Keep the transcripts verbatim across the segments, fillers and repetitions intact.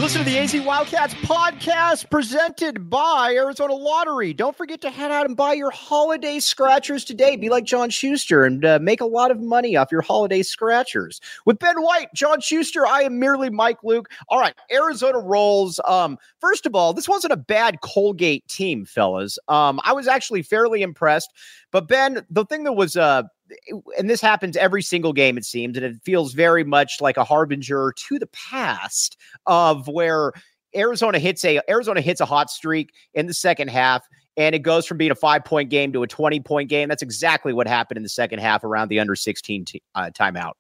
Listen to the A Z Wildcats podcast presented by Arizona Lottery. Don't forget to head out and buy your holiday scratchers today. Be like John Schuster and uh, make a lot of money off your holiday scratchers. With Ben White, John Schuster, I am merely Mike Luke. All right, Arizona rolls. Um, first of all, this wasn't a bad Colgate team, fellas. Um, I was actually fairly impressed. But Ben, the thing that was uh, and this happens every single game, it seems, and it feels very much like a harbinger to the past of where Arizona hits a Arizona hits a hot streak in the second half, and it goes from being a five-point game to a twenty-point game. That's exactly what happened in the second half around the under sixteen t- uh, timeout.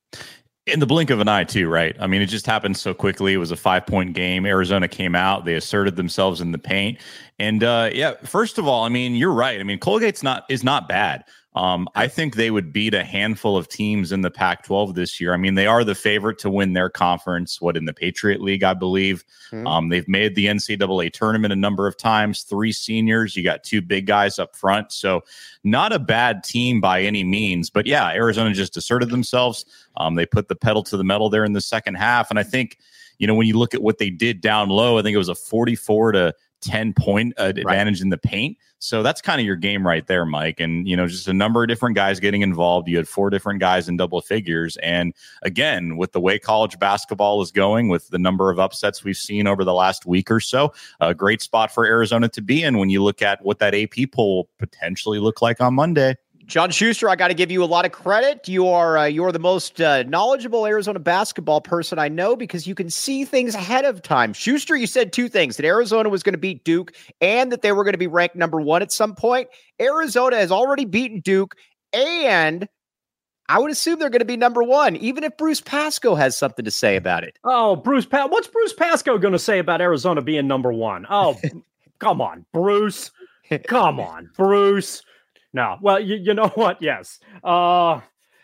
In the blink of an eye, too, right? I mean, it just happened so quickly. It was a five-point game. Arizona came out. They asserted themselves in the paint. And, uh, yeah, first of all, I mean, you're right. I mean, Colgate's not is not bad. Um, I think they would beat a handful of teams in the Pac twelve this year. I mean, they are the favorite to win their conference, what, in the Patriot League, I believe. Mm-hmm. Um, they've made the N C double A tournament a number of times, three seniors. You got two big guys up front. So not a bad team by any means. But, yeah, Arizona just asserted themselves. Um, they put the pedal to the metal there in the second half. And I think, you know, when you look at what they did down low, I think it was a forty-four to ten point uh, advantage right in the paint. So that's kind of your game right there, Mike. And, you know, just a number of different guys getting involved. You had four different guys in double figures. And again, with the way college basketball is going, with the number of upsets we've seen over the last week or so, a great spot for Arizona to be in when you look at what that A P poll potentially look like on Monday. John Schuster, I got to give you a lot of credit. You are uh, you are the most uh, knowledgeable Arizona basketball person I know because you can see things ahead of time. Schuster, you said two things, that Arizona was going to beat Duke and that they were going to be ranked number one at some point. Arizona has already beaten Duke, and I would assume they're going to be number one, even if Bruce Pascoe has something to say about it. Oh, Bruce, pa- what's Bruce Pascoe going to say about Arizona being number one? Oh, come on, Bruce. Come on, Bruce. No, well, you, you know what? Yes. Uh,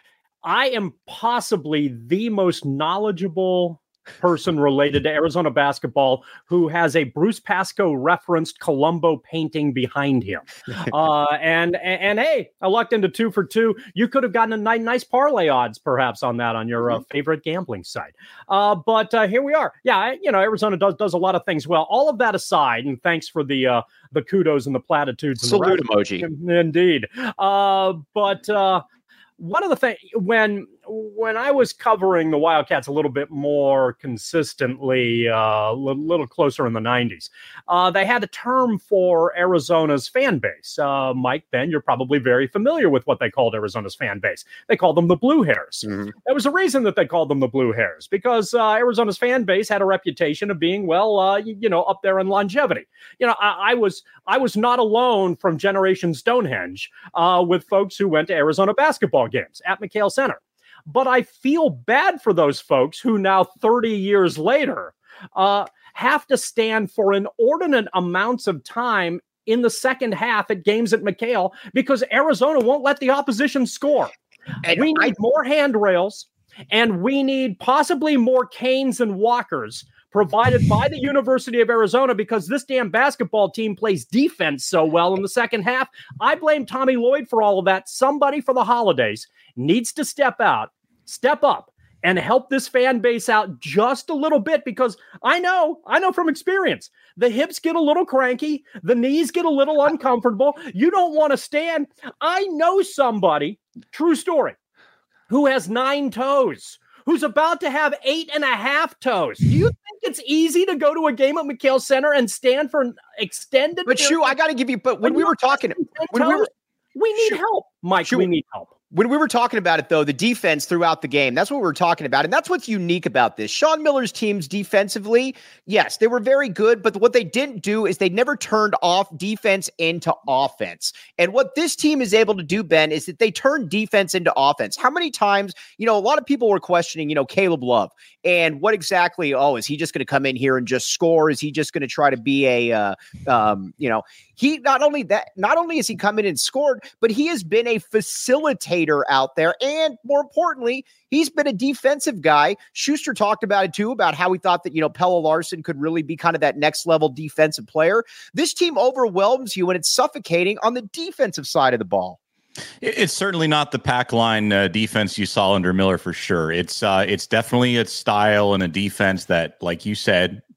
I am possibly the most knowledgeable person related to Arizona basketball who has a Bruce Pascoe referenced Columbo painting behind him. Uh, and, and, and hey, I lucked into two for two. You could have gotten a nice, nice parlay odds perhaps on that on your uh, favorite gambling site. Uh, but uh, here we are. Yeah, I, you know, Arizona does does a lot of things well. All of that aside, and thanks for the uh, the kudos and the platitudes. And salute the emoji. Indeed. Uh, but uh, one of the things, when when I was covering the Wildcats a little bit more consistently, uh, a little, little closer in the nineties, uh, they had a term for Arizona's fan base. Uh, Mike, Ben, you're probably very familiar with what they called Arizona's fan base. They called them the Blue Hairs. Mm-hmm. There was a reason that they called them the Blue Hairs, because uh, Arizona's fan base had a reputation of being, well, uh, you, you know, up there in longevity. You know, I, I was I was not alone from Generation Stonehenge uh, with folks who went to Arizona basketball games at McHale Center. But I feel bad for those folks who now thirty years later uh, have to stand for inordinate amounts of time in the second half at games at McHale because Arizona won't let the opposition score. And we need I- more handrails, and we need possibly more canes and walkers provided by the University of Arizona because this damn basketball team plays defense so well in the second half. I blame Tommy Lloyd for all of that. Somebody for the holidays needs to step out, step up, and help this fan base out just a little bit because I know, I know from experience, the hips get a little cranky, the knees get a little uncomfortable. You don't want to stand. I know somebody, true story, who has nine toes, who's about to have eight and a half toes. Do you think it's easy to go to a game at McHale Center and stand for an extended? But Shu, I got to give you, but when we were talking, when we were, we need Shu, help, Mike, Shu, we need help. When we were talking about it, though, the defense throughout the game, that's what we were talking about. And that's what's unique about this. Sean Miller's teams defensively, yes, they were very good. But what they didn't do is they never turned off defense into offense. And what this team is able to do, Ben, is that they turn defense into offense. How many times, you know, a lot of people were questioning, you know, Caleb Love and what exactly, oh, is he just going to come in here and just score? Is he just going to try to be a, uh, um, you know, he not only that, not only has he come in and scored, but he has been a facilitator out there. And more importantly, he's been a defensive guy. Schuster talked about it too, about how he thought that, you know, Pelle Larsson could really be kind of that next level defensive player. This team overwhelms you and it's suffocating on the defensive side of the ball. It's certainly not the pack line uh, defense you saw under Miller for sure. It's uh, it's definitely a style and a defense that, like you said,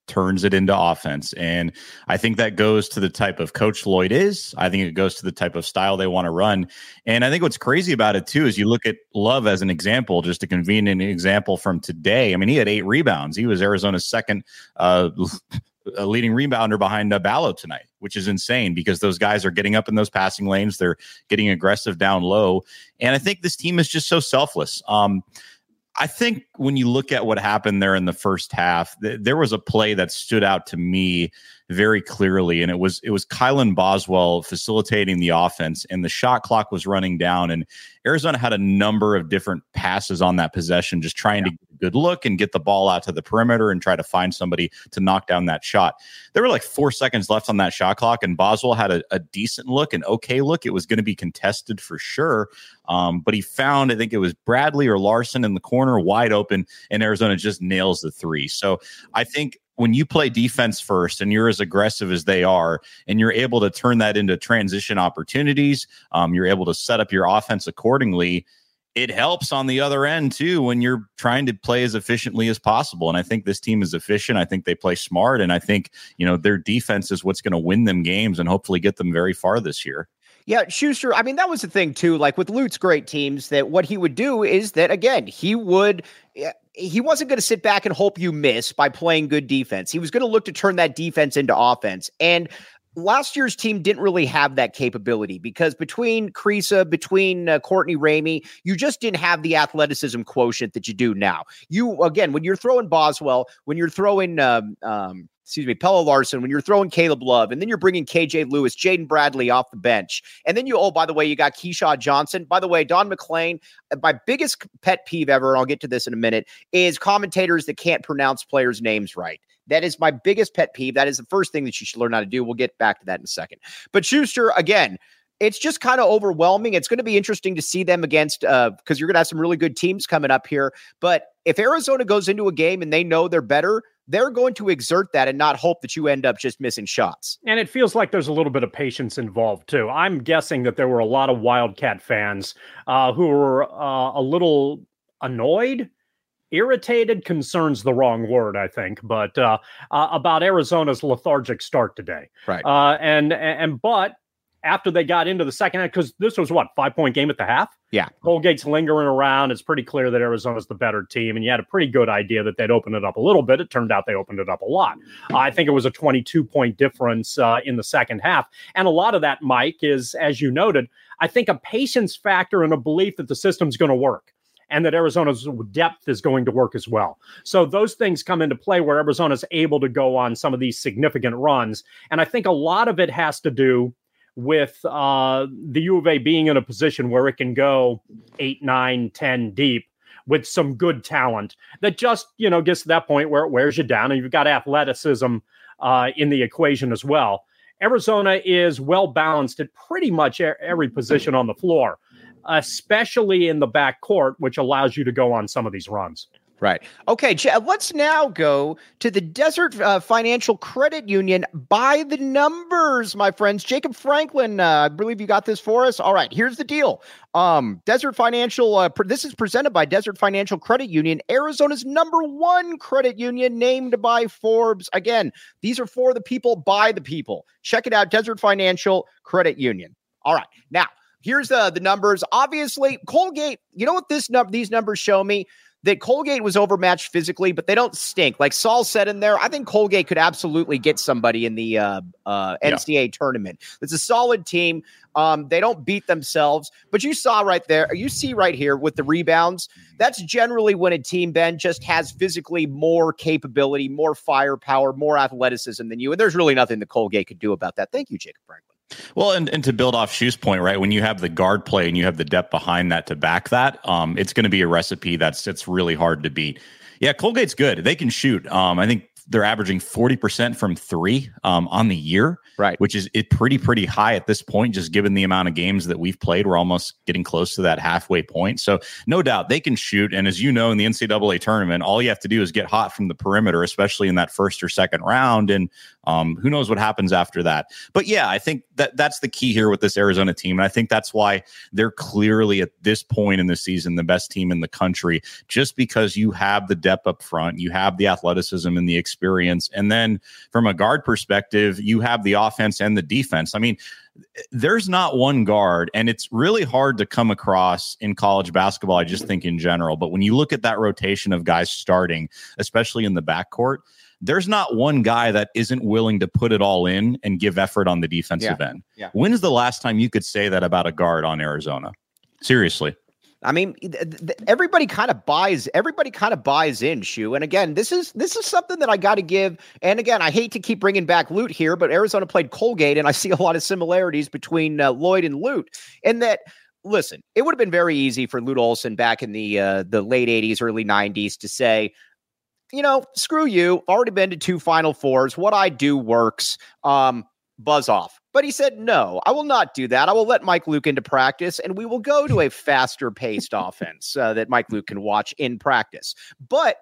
turns it into offense. And I think that goes to the type of coach Lloyd is. I think it goes to the type of style they want to run. And I think what's crazy about it too is you look at Love as an example, just a convenient example from today. I mean, he had eight rebounds. He was Arizona's second uh, leading rebounder behind uh, Ballo tonight, which is insane because those guys are getting up in those passing lanes. They're getting aggressive down low. And I think this team is just so selfless. Um, I think when you look at what happened there in the first half, th- there was a play that stood out to me very clearly, and it was it was Kylan Boswell facilitating the offense, and the shot clock was running down, and Arizona had a number of different passes on that possession, just trying yeah. to get a good look and get the ball out to the perimeter and try to find somebody to knock down that shot. There were like four seconds left on that shot clock, and Boswell had a, a decent look, an okay look. It was going to be contested for sure, um, but he found, I think it was Bradley or Larson in the corner wide open, and Arizona just nails the three. So I think when you play defense first and you're as aggressive as they are, and you're able to turn that into transition opportunities, um, you're able to set up your offense accordingly. It helps on the other end too, when you're trying to play as efficiently as possible. And I think this team is efficient. I think they play smart. And I think, you know, their defense is what's going to win them games and hopefully get them very far this year. Yeah, Schuster, I mean, that was the thing, too. Like with Lute's great teams, that what he would do is that, again, he would he wasn't going to sit back and hope you miss by playing good defense. He was going to look to turn that defense into offense. And last year's team didn't really have that capability because between Kriisa, between uh, Courtney Ramey, you just didn't have the athleticism quotient that you do now. You, again, when you're throwing Boswell, when you're throwing, um, um, excuse me, Pelle Larson, when you're throwing Caleb Love, and then you're bringing K J Lewis, Jaden Bradley off the bench. And then you, oh, by the way, you got Keyshawn Johnson. By the way, Don McClain, my biggest pet peeve ever, and I'll get to this in a minute, is commentators that can't pronounce players' names right. That is my biggest pet peeve. That is the first thing that you should learn how to do. We'll get back to that in a second. But Schuster, again, it's just kind of overwhelming. It's going to be interesting to see them against, uh, because you're going to have some really good teams coming up here. But if Arizona goes into a game and they know they're better, they're going to exert that and not hope that you end up just missing shots. And it feels like there's a little bit of patience involved, too. I'm guessing that there were a lot of Wildcat fans uh, who were uh, a little annoyed. Irritated, concern's the wrong word, I think, but uh, uh, about Arizona's lethargic start today. Right. Uh, and, and, but after they got into the second half, because this was what, five point game at the half? Yeah. Colgate's lingering around. It's pretty clear that Arizona's the better team, and you had a pretty good idea that they'd open it up a little bit. It turned out they opened it up a lot. Uh, I think it was a twenty-two point difference uh, in the second half. And a lot of that, Mike, is, as you noted, I think a patience factor and a belief that the system's going to work, and that Arizona's depth is going to work as well. So those things come into play where Arizona's able to go on some of these significant runs. And I think a lot of it has to do with uh, the U of A being in a position where it can go eight, nine, ten deep with some good talent that just, you know, gets to that point where it wears you down, and you've got athleticism uh, in the equation as well. Arizona is well balanced at pretty much every position on the floor, especially in the backcourt, which allows you to go on some of these runs. Right. Okay, let's now go to the Desert uh, Financial Credit Union by the numbers, my friends. Jacob Franklin, uh, I believe you got this for us. All right, here's the deal. Um, Desert Financial, uh, pr- this is presented by Desert Financial Credit Union, Arizona's number one credit union, named by Forbes. Again, these are for the people, by the people. Check it out, Desert Financial Credit Union. All right, now, here's uh, the numbers. Obviously, Colgate, you know what this num- these numbers show me? That Colgate was overmatched physically, but they don't stink. Like Saul said in there, I think Colgate could absolutely get somebody in the uh, uh, N C A A yeah. tournament. It's a solid team. Um, they don't beat themselves, but you saw right there, you see right here with the rebounds, that's generally when a team, Ben, just has physically more capability, more firepower, more athleticism than you. And there's really nothing that Colgate could do about that. Thank you, Jacob Franklin. Well, and, and to build off Shu's point, right, when you have the guard play and you have the depth behind that to back that, um, it's going to be a recipe that's it's really hard to beat. Yeah, Colgate's good. They can shoot. Um, I think they're averaging forty percent from three um, on the year, right? Which is it pretty, pretty high at this point, just given the amount of games that we've played. We're almost getting close to that halfway point. So no doubt they can shoot. And as you know, in the N C double A tournament, all you have to do is get hot from the perimeter, especially in that first or second round. And Um, who knows what happens after that? But yeah, I think that that's the key here with this Arizona team. And I think that's why they're clearly at this point in the season the best team in the country, just because you have the depth up front, you have the athleticism and the experience. And then from a guard perspective, you have the offense and the defense. I mean, there's not one guard, and it's really hard to come across in college basketball, I just think in general. But when you look at that rotation of guys starting, especially in the backcourt, there's not one guy that isn't willing to put it all in and give effort on the defensive yeah. end. Yeah. When is the last time you could say that about a guard on Arizona? Seriously. I mean, th- th- everybody kind of buys. Everybody kind of buys in, Shu. And again, this is this is something that I got to give. And again, I hate to keep bringing back Lute here, but Arizona played Colgate, and I see a lot of similarities between uh, Lloyd and Lute. In that, listen, it would have been very easy for Lute Olson back in the uh, the late eighties, early nineties to say, you know, screw you. Already been to two Final Fours. What I do works. Um, buzz off. But he said, no, I will not do that. I will let Mike Luke into practice, and we will go to a faster paced offense uh, that Mike Luke can watch in practice. But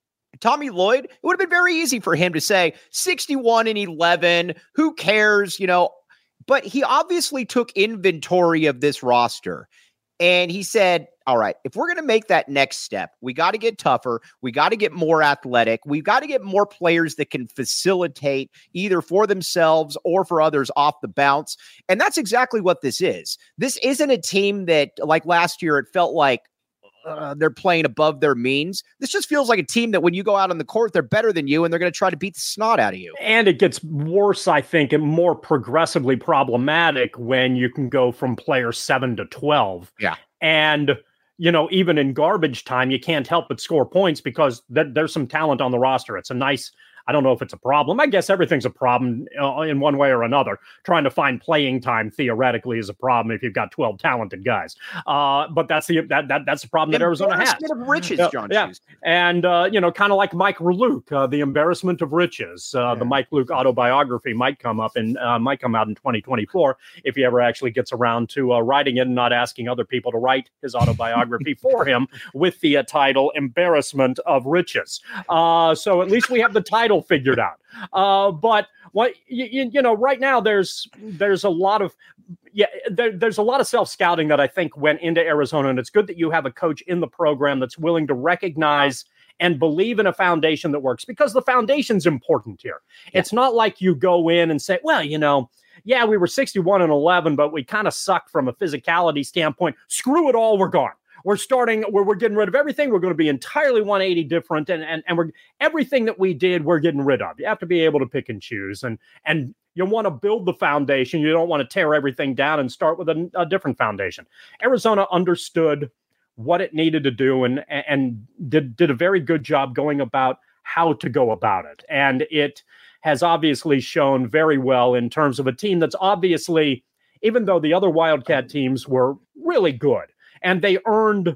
Tommy Lloyd, it would have been very easy for him to say sixty-one and eleven. Who cares? You know, but he obviously took inventory of this roster. And he said, all right, if we're going to make that next step, we got to get tougher. We got to get more athletic. We've got to get more players that can facilitate either for themselves or for others off the bounce. And that's exactly what this is. This isn't a team that, like last year, it felt like uh, they're playing above their means. This just feels like a team that when you go out on the court, they're better than you, and they're going to try to beat the snot out of you. And it gets worse, I think, and more progressively problematic when you can go from player seven to twelve. Yeah. And, you know, even in garbage time, you can't help but score points because th- there's some talent on the roster. It's a nice, I don't know if it's a problem. I guess everything's a problem uh, in one way or another. Trying to find playing time theoretically is a problem if you've got twelve talented guys. Uh, but that's the that, that that's the problem that Arizona has. Embarrassment of riches, yeah, John. Yeah. And, uh, you know, kind of like Mike Luke, uh, The Embarrassment of Riches. Uh, yeah. The Mike Luke autobiography might come up and uh, might come out in twenty twenty-four if he ever actually gets around to uh, writing it and not asking other people to write his autobiography for him with the uh, title Embarrassment of Riches. Uh, so at least we have the title figured out. Uh, but what you, you know, right now there's there's a lot of yeah there, there's a lot of self-scouting that I think went into Arizona, and it's good that you have a coach in the program that's willing to recognize and believe in a foundation that works, because the foundation's important here. Yeah. It's not like you go in and say, well, you know, yeah, we were sixty-one and eleven, but we kind of sucked from a physicality standpoint. Screw it all, we're gone. We're starting, we're, we're getting rid of everything. We're going to be entirely one eighty different. And, and, and we're everything that we did, we're getting rid of. You have to be able to pick and choose. And, and you want to build the foundation. You don't want to tear everything down and start with a, a different foundation. Arizona understood what it needed to do and, and did, did a very good job going about how to go about it. And it has obviously shown very well in terms of a team that's obviously, even though the other Wildcat teams were really good, and they earned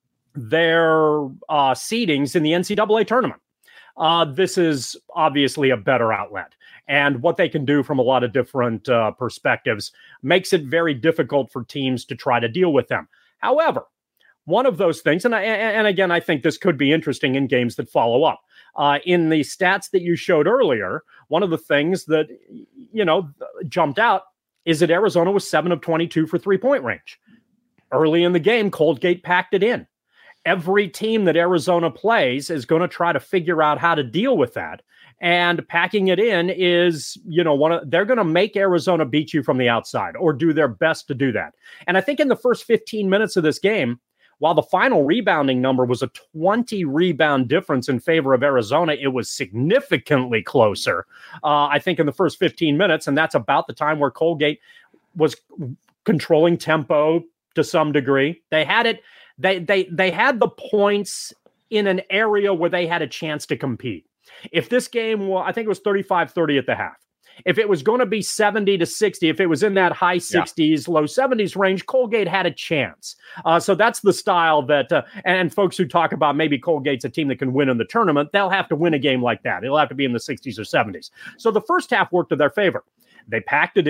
their uh, seedings in the N C double A tournament. Uh, this is obviously a better outlet. And what they can do from a lot of different uh, perspectives makes it very difficult for teams to try to deal with them. However, one of those things, and, I, and again, I think this could be interesting in games that follow up. Uh, in the stats that you showed earlier, one of the things that, you know, jumped out is that Arizona was seven of twenty-two for three-point range. Early in the game, Colgate packed it in. Every team that Arizona plays is going to try to figure out how to deal with that. And packing it in is, you know, one of, they're going to make Arizona beat you from the outside or do their best to do that. And I think in the first fifteen minutes of this game, while the final rebounding number was a twenty rebound difference in favor of Arizona, it was significantly closer, uh, I think, in the first fifteen minutes. And that's about the time where Colgate was controlling tempo to some degree. They had it, they they they had the points in an area where they had a chance to compete. If this game was, I think it was thirty-five thirty at the half. If it was going to be seventy to sixty, if it was in that high sixties, yeah. low seventies range, Colgate had a chance. Uh, so that's the style that, uh, and folks who talk about maybe Colgate's a team that can win in the tournament, they'll have to win a game like that. It'll have to be in the sixties or seventies. So the first half worked to their favor. They packed it in.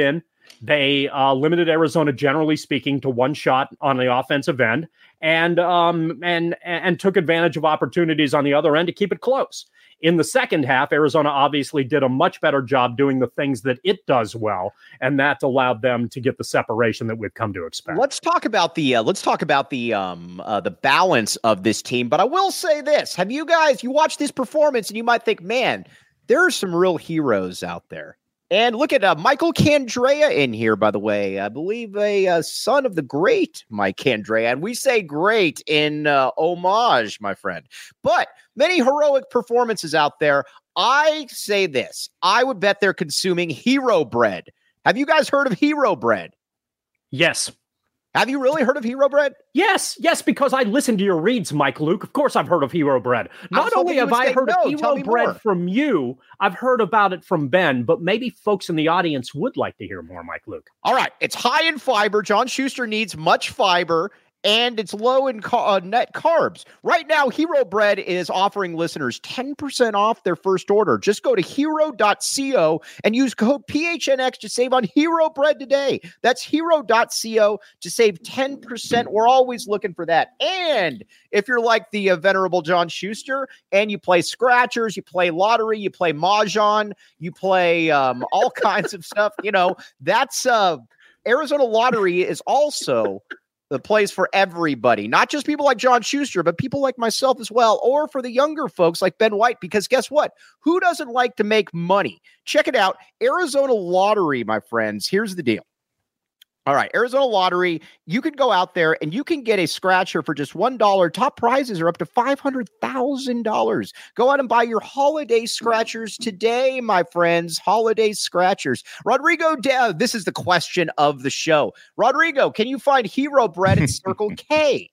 They uh, limited Arizona, generally speaking, to one shot on the offensive end, and um, and and took advantage of opportunities on the other end to keep it close. In the second half, Arizona obviously did a much better job doing the things that it does well, and that allowed them to get the separation that we've come to expect. Let's talk about the uh, let's talk about the um uh, the balance of this team. But I will say this: have you guys you watch this performance and you might think, man, there are some real heroes out there. And look at uh, Michael Candrea in here, by the way. I believe a uh, son of the great Mike Candrea. And we say great in uh, homage, my friend. But many heroic performances out there. I say this. I would bet they're consuming hero bread. Have you guys heard of hero bread? Yes. Have you really heard of hero bread? Yes, yes, because I listened to your reads, Mike Luke. Of course I've heard of hero bread. Not only have I heard no. of hero bread more. from you, I've heard about it from Ben, but maybe folks in the audience would like to hear more, Mike Luke. All right. It's high in fiber. John Schuster needs much fiber, and it's low in ca- uh, net carbs. Right now, Hero Bread is offering listeners ten percent off their first order. Just go to hero dot co and use code P H N X to save on Hero Bread today. That's hero dot co to save ten percent. We're always looking for that. And if you're like the uh, venerable John Schuster and you play scratchers, you play lottery, you play mahjong, you play um, all kinds of stuff, you know, that's uh, Arizona Lottery is also the place for everybody, not just people like John Schuster, but people like myself as well, or for the younger folks like Ben White, because guess what? Who doesn't like to make money? Check it out. Arizona Lottery, my friends. Here's the deal. All right, Arizona Lottery, you can go out there and you can get a scratcher for just one dollar. Top prizes are up to five hundred thousand dollars. Go out and buy your holiday scratchers today, my friends. Holiday scratchers. Rodrigo, De- this is the question of the show. Rodrigo, can you find Hero Bread at Circle K?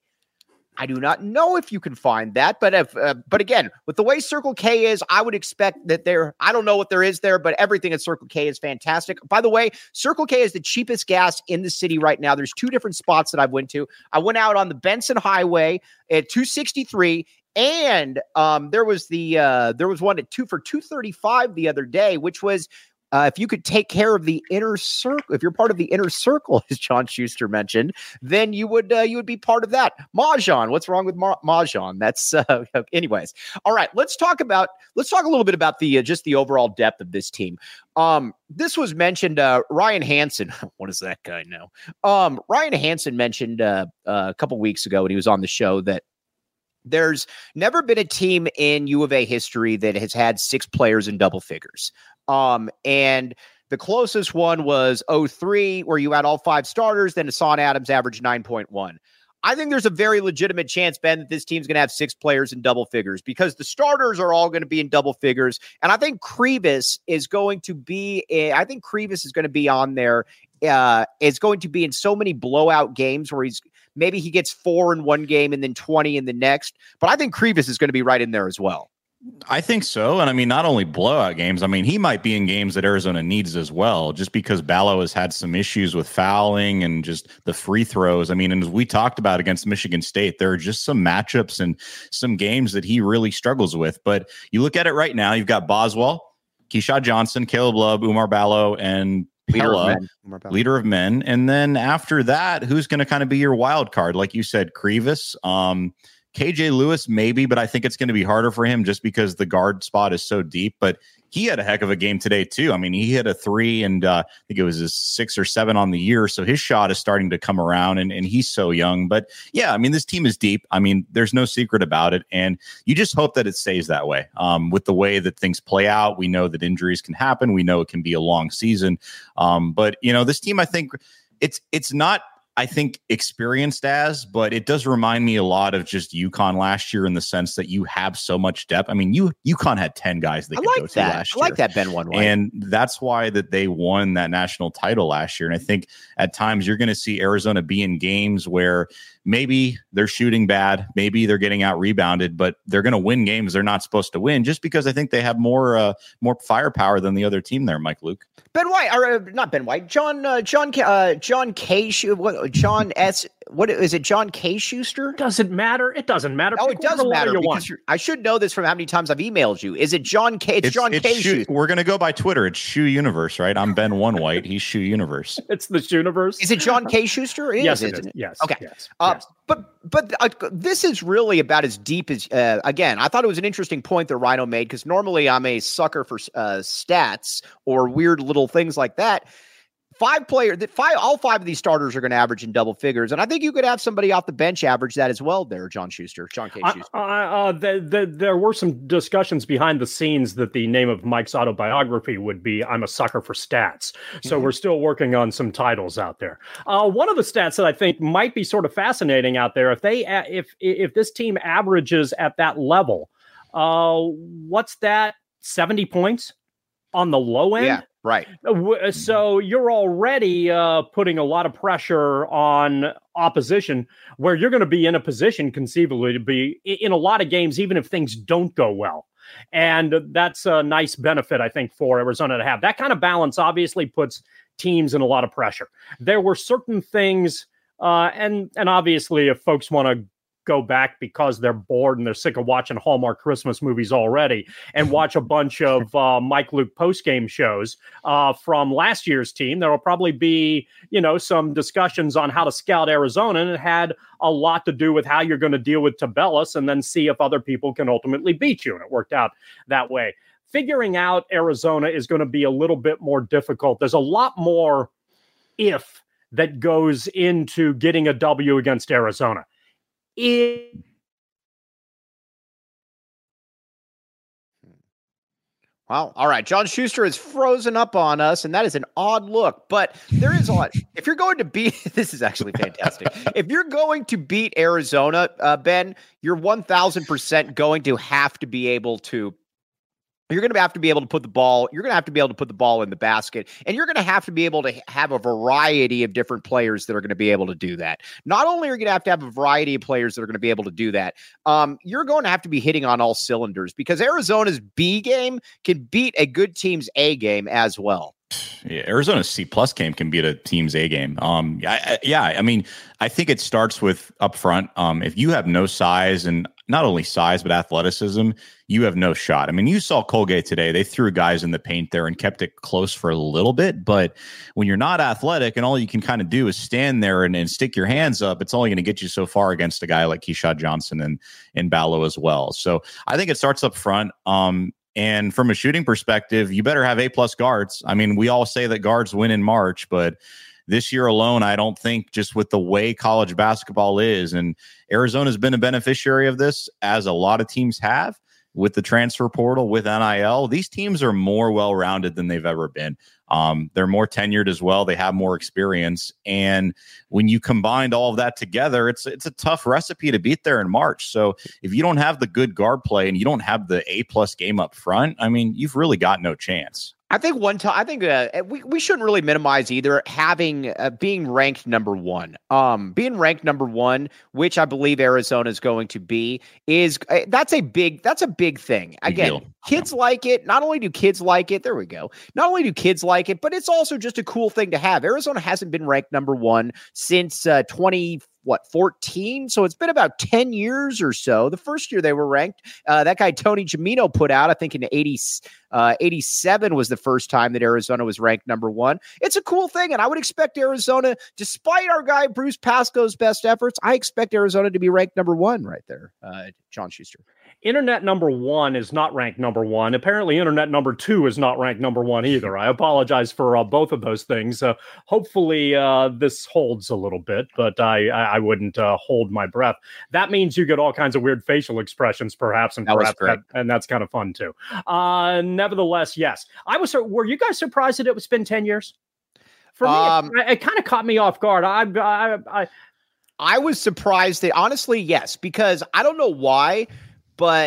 I do not know if you can find that, but if, uh, but again, with the way Circle K is, I would expect that there, I don't know what there is there, but everything at Circle K is fantastic. By the way, Circle K is the cheapest gas in the city right now. There's two different spots that I went to. I went out on the Benson Highway at two sixty-three, and um, there was the, uh, there was one at two for two thirty-five the other day, which was, Uh, if you could take care of the inner circle, if you're part of the inner circle, as John Schuster mentioned, then you would uh, you would be part of that. Mahjong, what's wrong with Ma- Mahjong? That's uh, anyways. All right, let's talk about let's talk a little bit about the uh, just the overall depth of this team. Um, this was mentioned. Uh, Ryan Hansen, what does that guy know? Um, Ryan Hansen mentioned uh, uh, a couple weeks ago when he was on the show that there's never been a team in U of A history that has had six players in double figures. Um, and the closest one was oh three, where you had all five starters, then Hassan Adams averaged nine point one. I think there's a very legitimate chance, Ben, that this team's going to have six players in double figures because the starters are all going to be in double figures. And I think Krivas is going to be, a, I think Krivas is going to be on there. Uh, is going to be in so many blowout games where he's maybe he gets four in one game and then twenty in the next. But I think Krivas is going to be right in there as well. I think so. And I mean, not only blowout games, I mean, he might be in games that Arizona needs as well, just because Ballo has had some issues with fouling and just the free throws. I mean, and as we talked about against Michigan State, there are just some matchups and some games that he really struggles with. But you look at it right now, you've got Boswell, Keyshawn Johnson, Caleb Love, Umar Ballo, and Leader Pella, of, men. leader of men. And then after that, who's going to kind of be your wild card? Like you said, Krivas, um, K J Lewis, maybe, but I think it's going to be harder for him just because the guard spot is so deep. But he had a heck of a game today, too. I mean, he hit a three, and uh, I think it was his six or seven on the year. So his shot is starting to come around, and, and he's so young. But yeah, I mean, this team is deep. I mean, there's no secret about it. And you just hope that it stays that way. Um, with the way that things play out, we know that injuries can happen. We know it can be a long season. Um, but, you know, this team, I think it's it's not. I think experienced as, but it does remind me a lot of just UConn last year in the sense that you have so much depth. I mean, you UConn had ten guys they I could like go to that. last I year. like that Ben one way. And that's why that they won that national title last year. And I think at times you're going to see Arizona be in games where maybe they're shooting bad, maybe they're getting out rebounded, but they're going to win games they're not supposed to win just because I think they have more uh, more firepower than the other team there, Mike Luke. Ben White, or uh, not Ben White, John, uh, John, uh, John K. Schu- what, John S. What is it? John K. Schuster? Doesn't matter. It doesn't matter. Oh, Pick it does matter you because I should know this from how many times I've emailed you. Is it John K? It's, it's John it's K. Shoe, Schuster. We're gonna go by Twitter. It's Shoe Universe, right? I'm Ben One White. He's Shoe Universe. It's the Shooniverse. Is it John K. Schuster? It yes, is, it is. it? Yes. Okay. Yes. Uh, yes. But but uh, this is really about as deep as uh, again. I thought it was an interesting point that Rhino made because normally I'm a sucker for uh, stats or weird little things like that. Five player that five all five of these starters are going to average in double figures, and I think you could have somebody off the bench average that as well. There, John Schuster, John K. Schuster. Uh, uh, the, the, there were some discussions behind the scenes that the name of Mike's autobiography would be "I'm a sucker for stats." So mm-hmm. we're still working on some titles out there. Uh, one of the stats that I think might be sort of fascinating out there, if they if if this team averages at that level, uh, what's that? seventy points on the low end. Yeah. Right. So you're already uh, putting a lot of pressure on opposition where you're going to be in a position conceivably to be in a lot of games, even if things don't go well. And that's a nice benefit, I think, for Arizona to have. That kind of balance obviously puts teams in a lot of pressure. There were certain things, uh, and, and obviously if folks want to go back because they're bored and they're sick of watching Hallmark Christmas movies already and watch a bunch of uh, Mike Luke postgame shows uh, from last year's team. There will probably be, you know, some discussions on how to scout Arizona, and it had a lot to do with how you're going to deal with Tabellus and then see if other people can ultimately beat you. And it worked out that way. Figuring out Arizona is going to be a little bit more difficult. There's a lot more if that goes into getting a W against Arizona. It... Wow. All right. John Schuster is frozen up on us, and that is an odd look. But there is a lot. If you're going to beat, this is actually fantastic. If you're going to beat Arizona, uh, Ben, you're one thousand percent going to have to be able to. You're going to have to be able to put the ball, you're going to have to be able to put the ball in the basket, and you're going to have to be able to have a variety of different players that are going to be able to do that. Not only are you going to have to have a variety of players that are going to be able to do that, um, you're going to have to be hitting on all cylinders because Arizona's B game can beat a good team's A game as well. Yeah, Arizona's C plus game can beat a team's A game. Um, I, I, yeah, I mean, I think it starts with up front. Um, if you have no size, and not only size but athleticism, you have no shot. I mean, you saw Colgate today; they threw guys in the paint there and kept it close for a little bit. But when you're not athletic and all you can kind of do is stand there and, and stick your hands up, it's only going to get you so far against a guy like Keyshawn Johnson and and Ballo as well. So I think it starts up front. Um, And from a shooting perspective, you better have A plus guards. I mean, we all say that guards win in March, but this year alone, I don't think just with the way college basketball is, and Arizona's been a beneficiary of this, as a lot of teams have with the transfer portal, with N I L. These teams are more well-rounded than they've ever been. Um, they're more tenured as well. They have more experience. And when you combine all of that together, it's it's a tough recipe to beat there in March. So if you don't have the good guard play and you don't have the A-plus game up front, I mean, you've really got no chance. I think one time, I think uh, we, we shouldn't really minimize either having uh, being ranked number one. Um, being ranked number one, which I believe Arizona is going to be, is uh, that's a big that's a big thing. Again, big kids yeah. like it. Not only do kids like it, there we go. Not only do kids like it, but it's also just a cool thing to have. Arizona hasn't been ranked number one since uh, twenty. What, fourteen? So it's been about ten years or so. The first year they were ranked, uh, that guy Tony Gimino put out, I think in eighty, uh, eighty-seven was the first time that Arizona was ranked number one. It's a cool thing, and I would expect Arizona, despite our guy Bruce Pascoe's best efforts, I expect Arizona to be ranked number one right there, uh, John Schuster. Internet number one is not ranked number one. Apparently, internet number two is not ranked number one either. I apologize for uh, both of those things. Uh, hopefully, uh, this holds a little bit, but I I wouldn't uh, hold my breath. That means you get all kinds of weird facial expressions, perhaps, and that perhaps that, and that's kind of fun too. Uh, nevertheless, yes, I was. Were you guys surprised that it was been ten years? For me, um, it, it kind of caught me off guard. I I I, I was surprised that honestly, yes, because I don't know why. But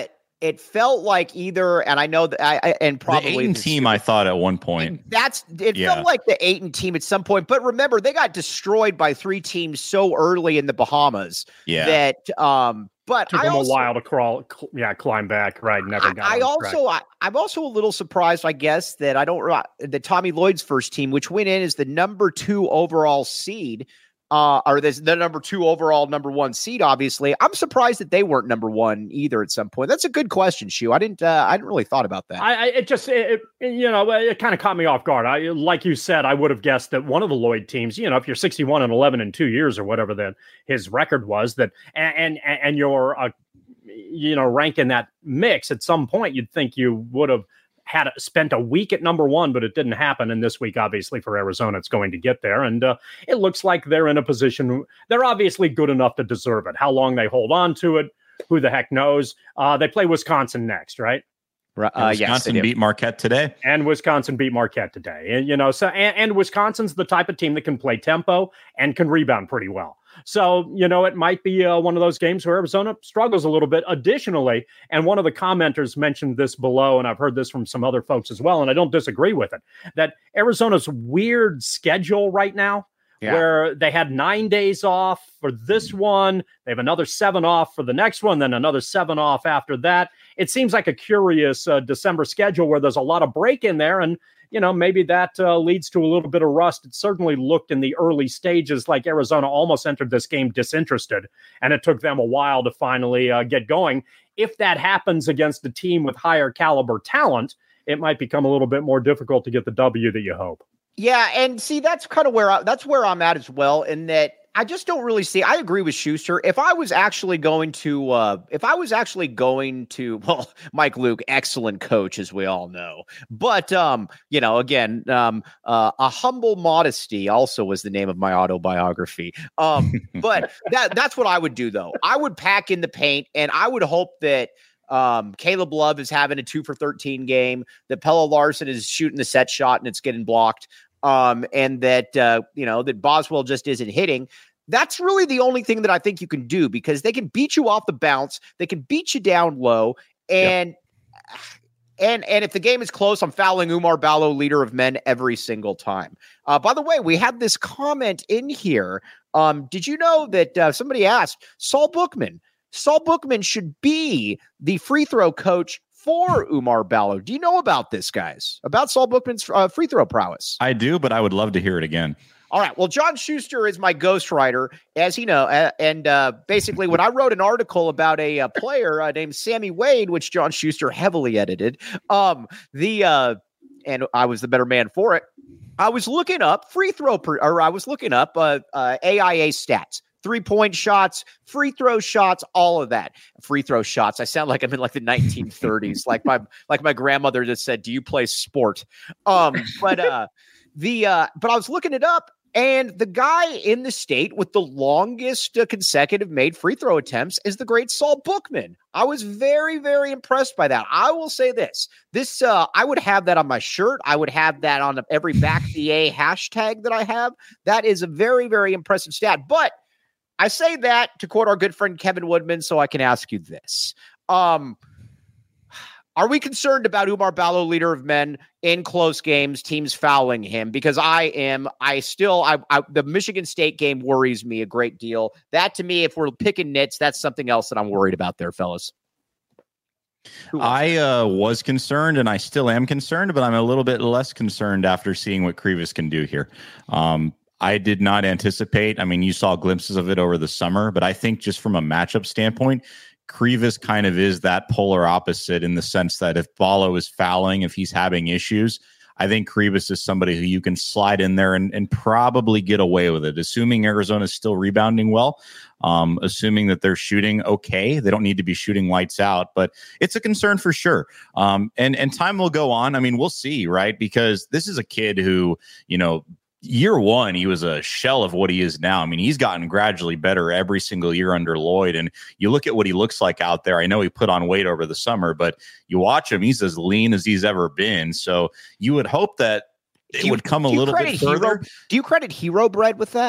it felt like either, and I know that I, I and probably the Ayton team, I thought at one point. That's it yeah. felt like the Ayton team at some point. But remember, they got destroyed by three teams so early in the Bahamas yeah. that um but took I them also, a while to crawl, cl- yeah, climb back. Right, never got. I, I also, I, I'm also a little surprised, I guess, that I don't that Tommy Lloyd's first team, which went in as the number two overall seed, uh, or the, the number two overall number one seed. Obviously, I'm surprised that they weren't number one either at some point. That's a good question, Shu. I didn't, uh, I didn't really thought about that. I, I it just, it, it, you know, it kind of caught me off guard. I, like you said, I would have guessed that one of the Lloyd teams, you know, if you're sixty-one and eleven in two years or whatever then his record was, that and and, and you're uh, you know, rank in that mix, at some point you'd think you would have had spent a week at number one, but it didn't happen. And this week, obviously, for Arizona, it's going to get there. And uh, it looks like they're in a position, they're obviously good enough to deserve it. How long they hold on to it, who the heck knows? Uh, they play Wisconsin next, right? Uh, Wisconsin yes, beat Marquette today, and Wisconsin beat Marquette today. And you know, so and, and Wisconsin's the type of team that can play tempo and can rebound pretty well. So you know, it might be uh, one of those games where Arizona struggles a little bit. Additionally, and one of the commenters mentioned this below, and I've heard this from some other folks as well, and I don't disagree with it. That Arizona's weird schedule right now, yeah. where they had nine days off for this one, they have another seven off for the next one, then another seven off after that. It seems like a curious uh, December schedule where there's a lot of break in there. And, you know, maybe that uh, leads to a little bit of rust. It certainly looked in the early stages like Arizona almost entered this game disinterested, and it took them a while to finally uh, get going. If that happens against a team with higher caliber talent, it might become a little bit more difficult to get the W that you hope. Yeah, and see, that's kind of where I, that's where I'm at as well, in that I just don't really see. I agree with Schuster. If I was actually going to, uh, if I was actually going to, well, Mike Luke, excellent coach, as we all know. But um, you know, again, um, uh, a humble modesty also was the name of my autobiography. Um, but that that's what I would do, though. I would pack in the paint, and I would hope that um, Caleb Love is having a two for thirteen game, that Pelle Larsson is shooting the set shot and it's getting blocked. Um, and that, uh, you know, that Boswell just isn't hitting. That's really the only thing that I think you can do, because they can beat you off the bounce. They can beat you down low. And, yep. and, and if the game is close, I'm fouling Oumar Ballo, leader of men, every single time. Uh, by the way, we had this comment in here. Um, did you know that uh, somebody asked Saul Bookman, Saul Bookman should be the free throw coach for Oumar Ballo. Do you know about this, guys? About Saul Bookman's uh, free throw prowess? I do, but I would love to hear it again. All right. Well, John Schuster is my ghostwriter, as you know. Uh, and uh, basically, when I wrote an article about a, a player uh, named Sammy Wade, which John Schuster heavily edited, um, the uh, and I was the better man for it. I was looking up free throw, per, or I was looking up uh, uh, A I A stats. Three-point shots, free throw shots, all of that. Free throw shots. I sound like I'm in like the nineteen thirties, like my like my grandmother just said, "Do you play sport?" Um, but uh, the uh, but I was looking it up, and the guy in the state with the longest uh, consecutive made free throw attempts is the great Saul Bookman. I was very, very impressed by that. I will say this: this uh, I would have that on my shirt. I would have that on every back D A hashtag that I have. That is a very, very impressive stat, but I say that to quote our good friend Kevin Woodman, so I can ask you this. Um, are we concerned about Oumar Ballo, leader of men, in close games, teams fouling him? Because I am, I still, I, I, the Michigan State game worries me a great deal. That, to me, if we're picking nits, that's something else that I'm worried about there, fellas. I uh, was concerned, and I still am concerned, but I'm a little bit less concerned after seeing what Krivas can do here. Um, I did not anticipate. I mean, you saw glimpses of it over the summer, but I think just from a matchup standpoint, Krivas kind of is that polar opposite in the sense that if Ballo is fouling, if he's having issues, I think Krivas is somebody who you can slide in there and, and probably get away with it, assuming Arizona is still rebounding well, um, assuming that they're shooting okay. They don't need to be shooting lights out, but it's a concern for sure. Um, and, and time will go on. I mean, we'll see, right? Because this is a kid who, you know, year one, he was a shell of what he is now. I mean, he's gotten gradually better every single year under Lloyd. And you look at what he looks like out there. I know he put on weight over the summer, but you watch him, he's as lean as he's ever been. So you would hope that it you, would come a little bit further. Hero, do you credit Hero Bread with that?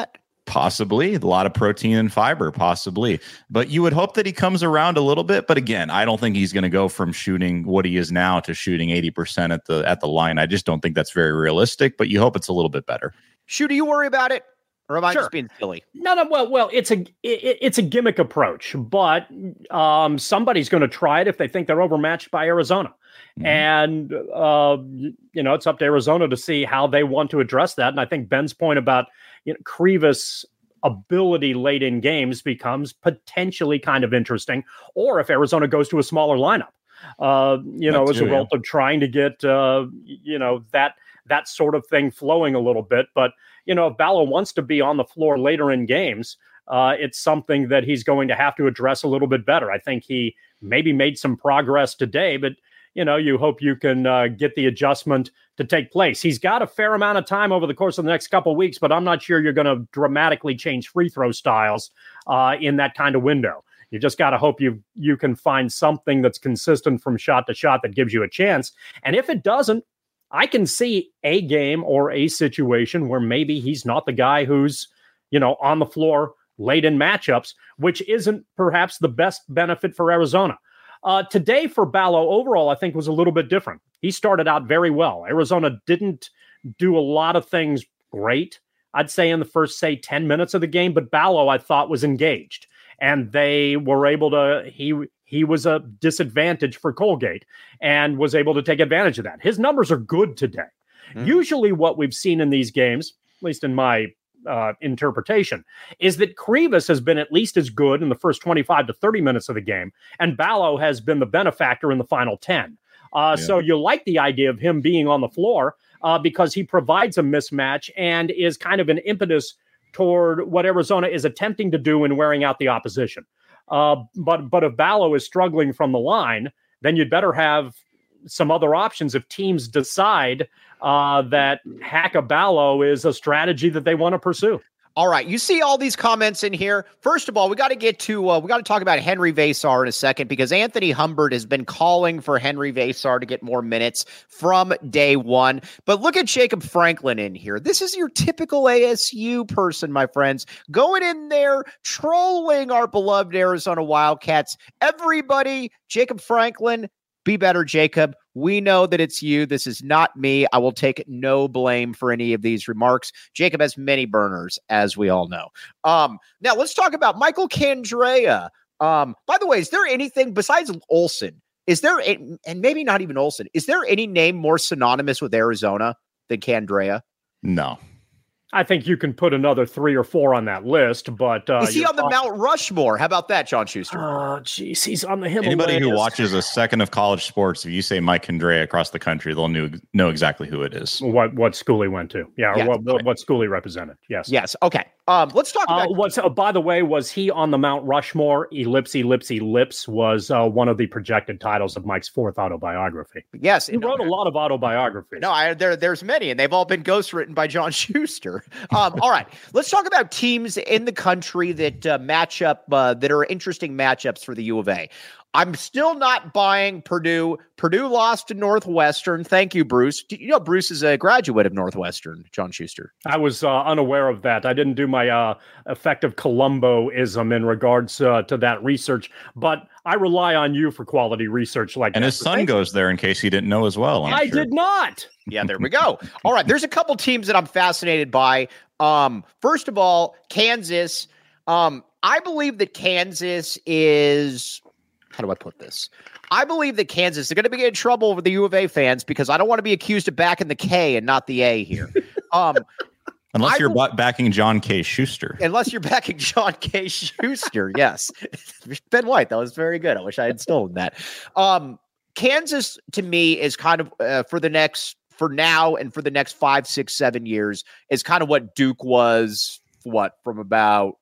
Possibly. A lot of protein and fiber, possibly. But you would hope that he comes around a little bit. But again, I don't think he's going to go from shooting what he is now to shooting eighty percent at the at the line. I just don't think that's very realistic, but you hope it's a little bit better. Shu, do you worry about it? Or am I Sure. just being silly? No, no. Well, well, it's a it, it's a gimmick approach, but um, somebody's going to try it if they think they're overmatched by Arizona, mm-hmm. and uh, you know it's up to Arizona to see how they want to address that. And I think Ben's point about you know, Krivas' ability late in games becomes potentially kind of interesting, or if Arizona goes to a smaller lineup, uh, you know, as a result yeah. of trying to get uh, you know that that sort of thing flowing a little bit, but. You know, if Ballo wants to be on the floor later in games, uh, it's something that he's going to have to address a little bit better. I think he maybe made some progress today, but, you know, you hope you can uh, get the adjustment to take place. He's got a fair amount of time over the course of the next couple of weeks, but I'm not sure you're going to dramatically change free throw styles uh, in that kind of window. You just got to hope you you can find something that's consistent from shot to shot that gives you a chance. And if it doesn't, I can see a game or a situation where maybe he's not the guy who's, you know, on the floor late in matchups, which isn't perhaps the best benefit for Arizona. Uh, today for Ballo overall, I think was a little bit different. He started out very well. Arizona didn't do a lot of things great, I'd say, in the first, say, ten minutes of the game, but Ballo, I thought, was engaged. And they were able to, he he was a disadvantage for Colgate and was able to take advantage of that. His numbers are good today. Mm. Usually what we've seen in these games, at least in my uh, interpretation, is that Krivas has been at least as good in the first twenty-five to thirty minutes of the game, and Ballo has been the benefactor in the final ten. Uh, yeah. So you like the idea of him being on the floor uh, because he provides a mismatch and is kind of an impetus toward what Arizona is attempting to do in wearing out the opposition. Uh, but but if Ballo is struggling from the line, then you'd better have some other options if teams decide uh, that hack a Ballo is a strategy that they want to pursue. All right. You see all these comments in here. First of all, we got to get to, uh, we got to talk about Henry Versar in a second, because Anthony Humbert has been calling for Henry Versar to get more minutes from day one. But look at Jacob Franklin in here. This is your typical A S U person, my friends, going in there, trolling our beloved Arizona Wildcats. Everybody, Jacob Franklin, be better, Jacob. We know that it's you. This is not me. I will take no blame for any of these remarks. Jacob has many burners, as we all know. Um, now, let's talk about Michael Candrea. Um, by the way, is there anything besides Olsen? Is there, a, and maybe not even Olsen, is there any name more synonymous with Arizona than Candrea? No. I think you can put another three or four on that list, but uh, is he on the Mount Rushmore? How about that, John Schuster? Oh, geez, he's on the Himalayas. Anybody who watches a second of college sports, if you say Mike Candrea across the country, they'll know, know exactly who it is. What what school he went to? Yeah, or yes, what, what what school he represented? Yes, yes. Okay. Um, let's talk about. Uh, what's uh, by the way, was he on the Mount Rushmore? Ellipse, ellipse, ellipse was uh, one of the projected titles of Mike's fourth autobiography. Yes, he wrote a lot of autobiographies. No, I, there there's many, and they've all been ghostwritten by John Schuster. Um, all right, let's talk about teams in the country that uh, match up uh, that are interesting matchups for the U of A. I'm still not buying Purdue. Purdue lost to Northwestern. Thank you, Bruce. You know, Bruce is a graduate of Northwestern, John Schuster. I was uh, unaware of that. I didn't do my uh, effective Columbo-ism in regards uh, to that research, but I rely on you for quality research like and that. And his son goes there in case he didn't know as well. I'm I sure. did not. Yeah, there we go. All right, there's a couple teams that I'm fascinated by. Um, first of all, Kansas. Um, I believe that Kansas is... How do I put this? I believe that Kansas is going to be in trouble with the U of A fans because I don't want to be accused of backing the K and not the A here. Um, unless I you're will, backing John K. Schuster. Unless you're backing John K. Schuster, yes. Ben White, that was very good. I wish I had stolen that. Um, Kansas, to me, is kind of uh, for the next, for now and for the next five, six, seven years, is kind of what Duke was, what, from about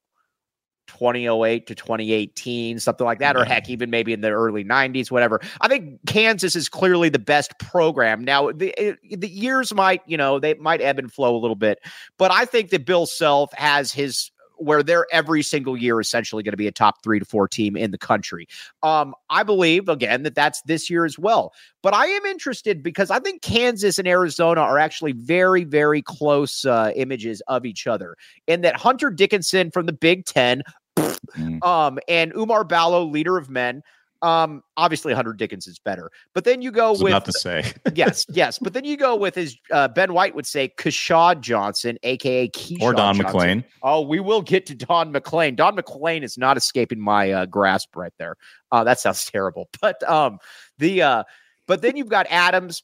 twenty oh eight to twenty eighteen, something like that, or heck, even maybe in the early nineties, whatever. I think Kansas is clearly the best program. Now, the the years might, you know, they might ebb and flow a little bit, but I think that Bill Self has his where they're every single year essentially going to be a top three to four team in the country. Um, I believe, again, that that's this year as well. But I am interested because I think Kansas and Arizona are actually very, very close uh, images of each other, in that Hunter Dickinson from the Big Ten mm. um, and Umar Ballo, leader of men. Um, obviously Hunter Dickinson's better, but then you go I was with about to say yes, yes, but then you go with his uh, Ben White would say Keshad Johnson, aka Keyshawn or Don Johnson. McClain. Oh, we will get to Don McClain. Don McClain is not escaping my uh, grasp right there. Uh, that sounds terrible, but um, the uh, but then you've got Adams.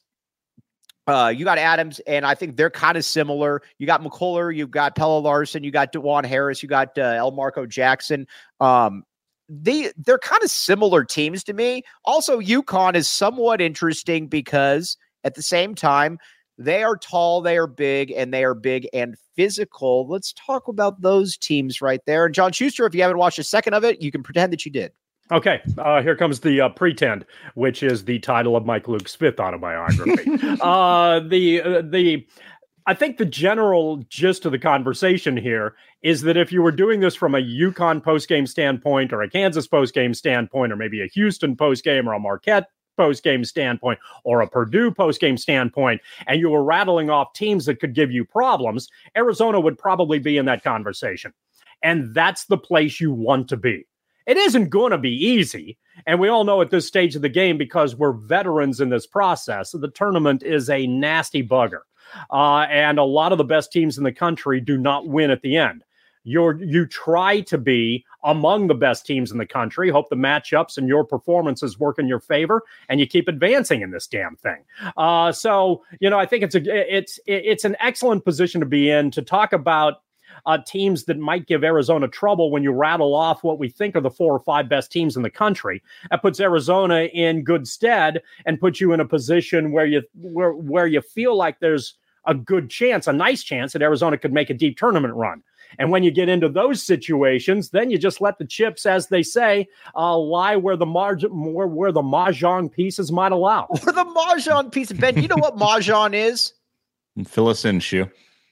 Uh, you got Adams, and I think they're kind of similar. You got McCuller, you've got Pella Larson, you got DeJuan Harris, you got uh, El Marco Jackson. Um, They, they're kind of similar teams to me. Also, UConn is somewhat interesting because at the same time, they are tall, they are big, and they are big and physical. Let's talk about those teams right there. And John Schuster, if you haven't watched a second of it, you can pretend that you did. Okay, uh, here comes the uh, Pretend, which is the title of Mike Luke's fifth autobiography. uh, the uh, the I think the general gist of the conversation here is that if you were doing this from a UConn postgame standpoint or a Kansas postgame standpoint or maybe a Houston postgame or a Marquette postgame standpoint or a Purdue postgame standpoint, and you were rattling off teams that could give you problems, Arizona would probably be in that conversation. And that's the place you want to be. It isn't going to be easy. And we all know at this stage of the game, because we're veterans in this process, the tournament is a nasty bugger. Uh, and a lot of the best teams in the country do not win at the end. You're, you try to be among the best teams in the country, hope the matchups and your performances work in your favor, and you keep advancing in this damn thing. Uh, so, you know, I think it's a it's it's an excellent position to be in to talk about uh, teams that might give Arizona trouble when you rattle off what we think are the four or five best teams in the country. That puts Arizona in good stead and puts you in a position where you where where you feel like there's a good chance, a nice chance that Arizona could make a deep tournament run. And when you get into those situations, then you just let the chips, as they say, uh, lie where the margin, where, where the mahjong pieces might allow. Where the mahjong piece, Ben, you know what mahjong is? Fill us in, Shu.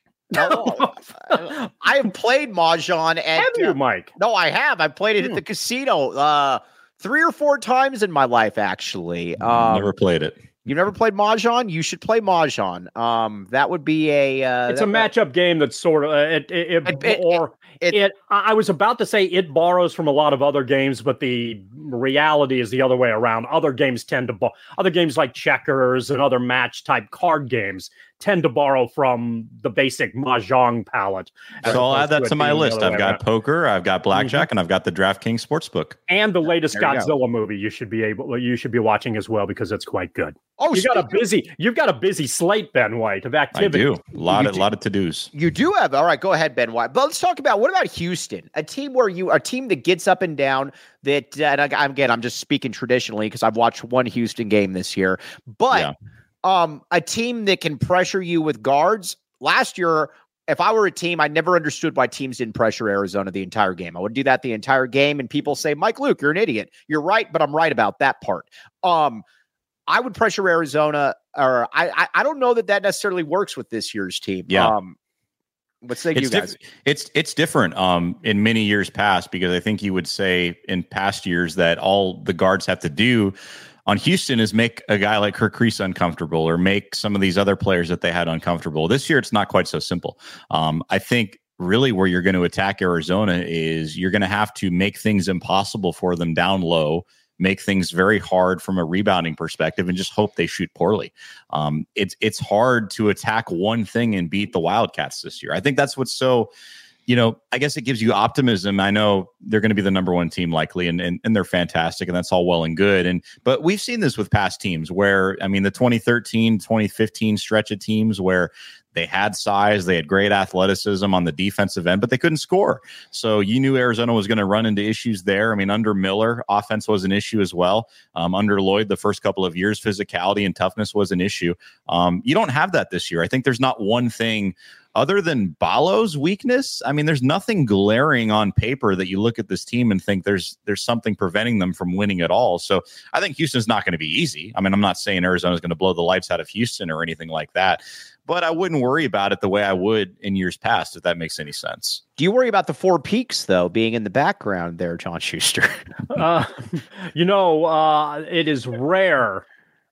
No, I have played mahjong at. Have you, uh, Mike? No, I have. I played it hmm. at the casino uh, three or four times in my life, actually. Um, Never played it. You've never played mahjong? You should play mahjong. Um, that would be a. Uh, it's that, a matchup game that's sort of uh, it, it, it, it, or it, it, it. I was about to say it borrows from a lot of other games, but the reality is the other way around. Other games tend to bo- other games like checkers and other match type card games tend to borrow from the basic mahjong palette. So I'll add that to my list. I've got around. poker, I've got blackjack, mm-hmm. and I've got the DraftKings Sportsbook. And the latest Godzilla movie you should be able you should be watching as well, because it's quite good. Oh, you got a busy you've got a busy slate, Ben White, of activity. I do. A lot you of do. lot of to-dos. You do have. All right, go ahead, Ben White. But let's talk about what about Houston? A team where you a team that gets up and down, that uh, and I, again, I'm just speaking traditionally because I've watched one Houston game this year. But yeah. Um, a team that can pressure you with guards. Last year, if I were a team, I never understood why teams didn't pressure Arizona the entire game. I would do that the entire game, and people say, Mike Luke, you're an idiot. You're right, but I'm right about that part. Um, I would pressure Arizona, or I, I, I don't know that that necessarily works with this year's team. Yeah. Um, What's say you guys? Diff- it's it's different um, in many years past, because I think you would say in past years that all the guards have to do on Houston is make a guy like Kirk Crease uncomfortable, or make some of these other players that they had uncomfortable. This year, it's not quite so simple. Um, I think really where you're going to attack Arizona is you're going to have to make things impossible for them down low, make things very hard from a rebounding perspective, and just hope they shoot poorly. Um, it's it's hard to attack one thing and beat the Wildcats this year. I think that's what's so, you know, I guess it gives you optimism. I know they're going to be the number one team likely, and, and and they're fantastic, and that's all well and good. And but we've seen this with past teams where, I mean, the twenty thirteen, twenty fifteen stretch of teams where they had size, they had great athleticism on the defensive end, but they couldn't score. So you knew Arizona was going to run into issues there. I mean, under Miller, offense was an issue as well. Um, under Lloyd, the first couple of years, physicality and toughness was an issue. Um, you don't have that this year. I think there's not one thing other than Ballo's weakness. I mean, there's nothing glaring on paper that you look at this team and think there's there's something preventing them from winning at all. So I think Houston's not going to be easy. I mean, I'm not saying Arizona's going to blow the lights out of Houston or anything like that. but I wouldn't worry about it the way I would in years past, if that makes any sense. Do you worry about the Four Peaks, though, being in the background there, John Schuster? uh, you know, uh, it is rare,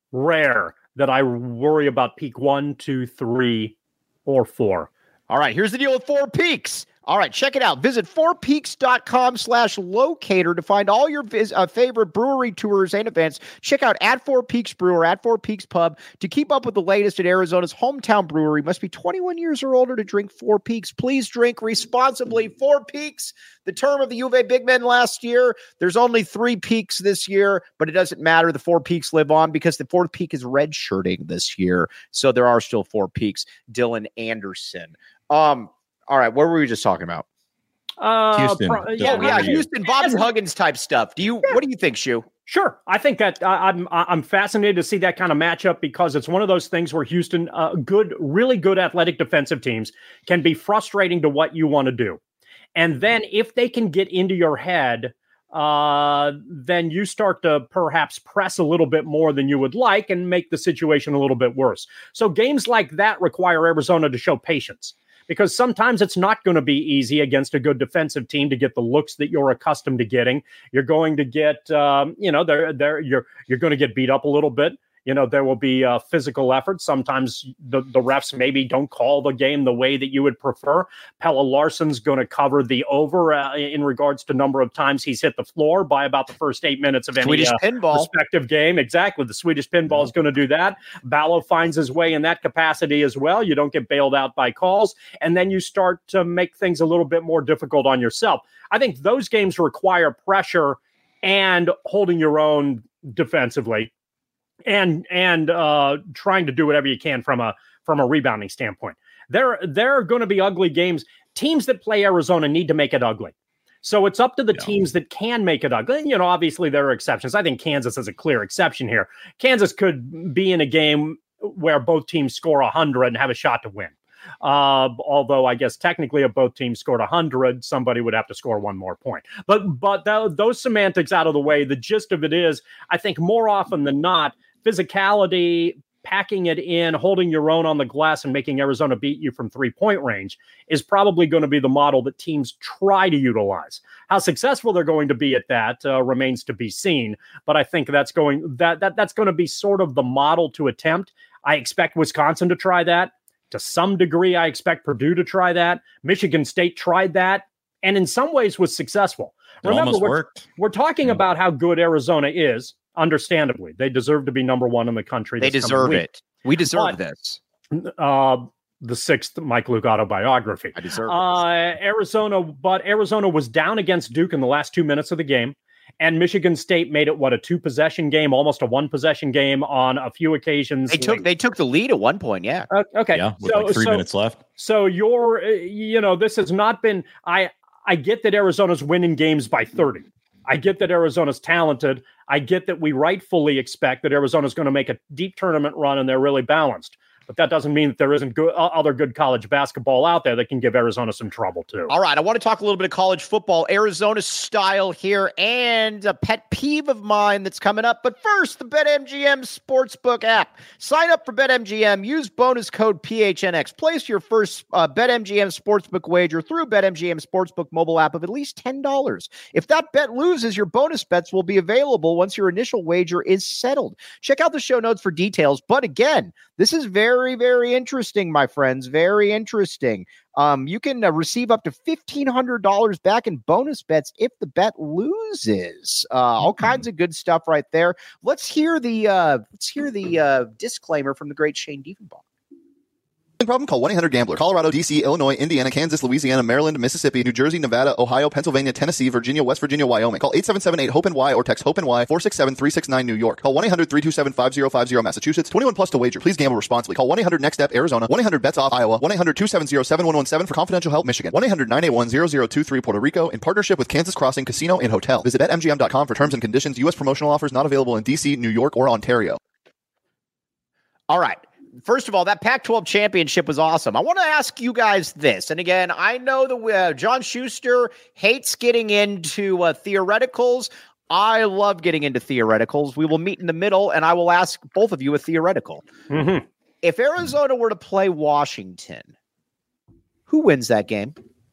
rare that I worry about peak one, two, three, or four. All right, here's the deal with Four Peaks. All right, check it out. Visit fourpeaks.com slash locator to find all your vis- uh, favorite brewery tours and events. Check out at Four Peaks Brewer, at Four Peaks Pub. To keep up with the latest at Arizona's hometown brewery, must be twenty-one years or older to drink Four Peaks. Please drink responsibly. Four Peaks, the term of the U of A Big Men last year. There's only three peaks this year, but it doesn't matter. The Four Peaks live on because the fourth peak is redshirting this year. So there are still four peaks. Dylan Anderson. Um, All right, what were we just talking about? Uh, Houston. Pro- Yeah, yeah, yeah, I- Houston, Bobby Huggins type stuff. Do you? Yeah. What do you think, Shu? Sure, I think that uh, I'm I'm fascinated to see that kind of matchup because it's one of those things where Houston, uh, good, really good athletic defensive teams, can be frustrating to what you want to do, and then if they can get into your head, uh, then you start to perhaps press a little bit more than you would like and make the situation a little bit worse. So games like that require Arizona to show patience. Because sometimes it's not going to be easy against a good defensive team to get the looks that you're accustomed to getting. You're going to get, um, you know, they're, they're, you're you're going to get beat up a little bit. You know, there will be uh, physical effort. Sometimes the, the refs maybe don't call the game the way that you would prefer. Pella Larson's going to cover the over uh, in regards to number of times he's hit the floor by about the first eight minutes of any Swedish uh, pinball. respective game. Exactly. The Swedish pinball is going to do that. Ballo finds his way in that capacity as well. You don't get bailed out by calls. And then you start to make things a little bit more difficult on yourself. I think those games require pressure and holding your own defensively. And and uh, trying to do whatever you can from a from a rebounding standpoint. There there are going to be ugly games. Teams that play Arizona need to make it ugly. So it's up to the yeah. teams that can make it ugly. And, you know, obviously there are exceptions. I think Kansas is a clear exception here. Kansas could be in a game where both teams score one hundred and have a shot to win. Uh, although I guess technically if both teams scored one hundred, somebody would have to score one more point. But but th- those semantics out of the way, the gist of it is, I think more often than not, physicality, packing it in, holding your own on the glass and making Arizona beat you from three-point range is probably going to be the model that teams try to utilize. How successful they're going to be at that uh, remains to be seen, but I think that's going that that that's going to be sort of the model to attempt. I expect Wisconsin to try that. To some degree, I expect Purdue to try that. Michigan State tried that, and in some ways was successful. It Remember, almost we're, worked. We're talking Yeah. about how good Arizona is. Understandably, they deserve to be number one in the country. They this coming deserve week. it. We deserve But- this. Uh, the sixth Mike Luke autobiography. I deserve Uh, Arizona, but Arizona was down against Duke in the last two minutes of the game, and Michigan State made it what a two possession game, almost a one possession game on a few occasions. They took late. they took the lead at one point. Yeah. Uh, okay, Yeah, with so like three so, minutes left. so you're, uh, you know, this has not been. I I get that Arizona's winning games by thirty. I get that Arizona's talented. I get that we rightfully expect that Arizona's going to make a deep tournament run and they're really balanced. But that doesn't mean that there isn't good, uh, other good college basketball out there that can give Arizona some trouble too. All right, I want to talk a little bit of college football, Arizona style here, and a pet peeve of mine that's coming up. But first, the BetMGM Sportsbook app. Sign up for BetMGM. Use bonus code P H N X. Place your first uh, BetMGM Sportsbook wager through BetMGM Sportsbook mobile app of at least ten dollars. If that bet loses, your bonus bets will be available once your initial wager is settled. Check out the show notes for details. But again, this is very, very interesting, my friends. Very interesting. Um, you can uh, receive up to fifteen hundred dollars back in bonus bets if the bet loses. Uh, all mm-hmm. kinds of good stuff right there. Let's hear the uh, let's hear the uh, disclaimer from the great Shane Diefenbach. Problem? Call one eight hundred gambler. Colorado, D C, Illinois, Indiana, Kansas, Louisiana, Maryland, Mississippi, New Jersey, Nevada, Ohio, Pennsylvania, Tennessee, Virginia, West Virginia, Wyoming. Call eight seven seven eight hope N Y or text hope N Y four six seven three six nine New York. Call one eight hundred three two seven five zero five zero Massachusetts. twenty-one plus to wager. Please gamble responsibly. Call one eight hundred next step Arizona. one eight hundred bets off Iowa. one eight hundred two seven zero seven one one seven for confidential help Michigan. one eight hundred nine eight one zero zero two three Puerto Rico in partnership with Kansas Crossing Casino and Hotel. Visit bet M G M dot com for terms and conditions. U S promotional offers not available in D C, New York, or Ontario. All right. First of all, that Pac twelve championship was awesome. I want to ask you guys this. And again, I know that uh, John Schuster hates getting into uh, theoreticals. I love getting into theoreticals. We will meet in the middle, and I will ask both of you a theoretical. Mm-hmm. If Arizona were to play Washington, who wins that game?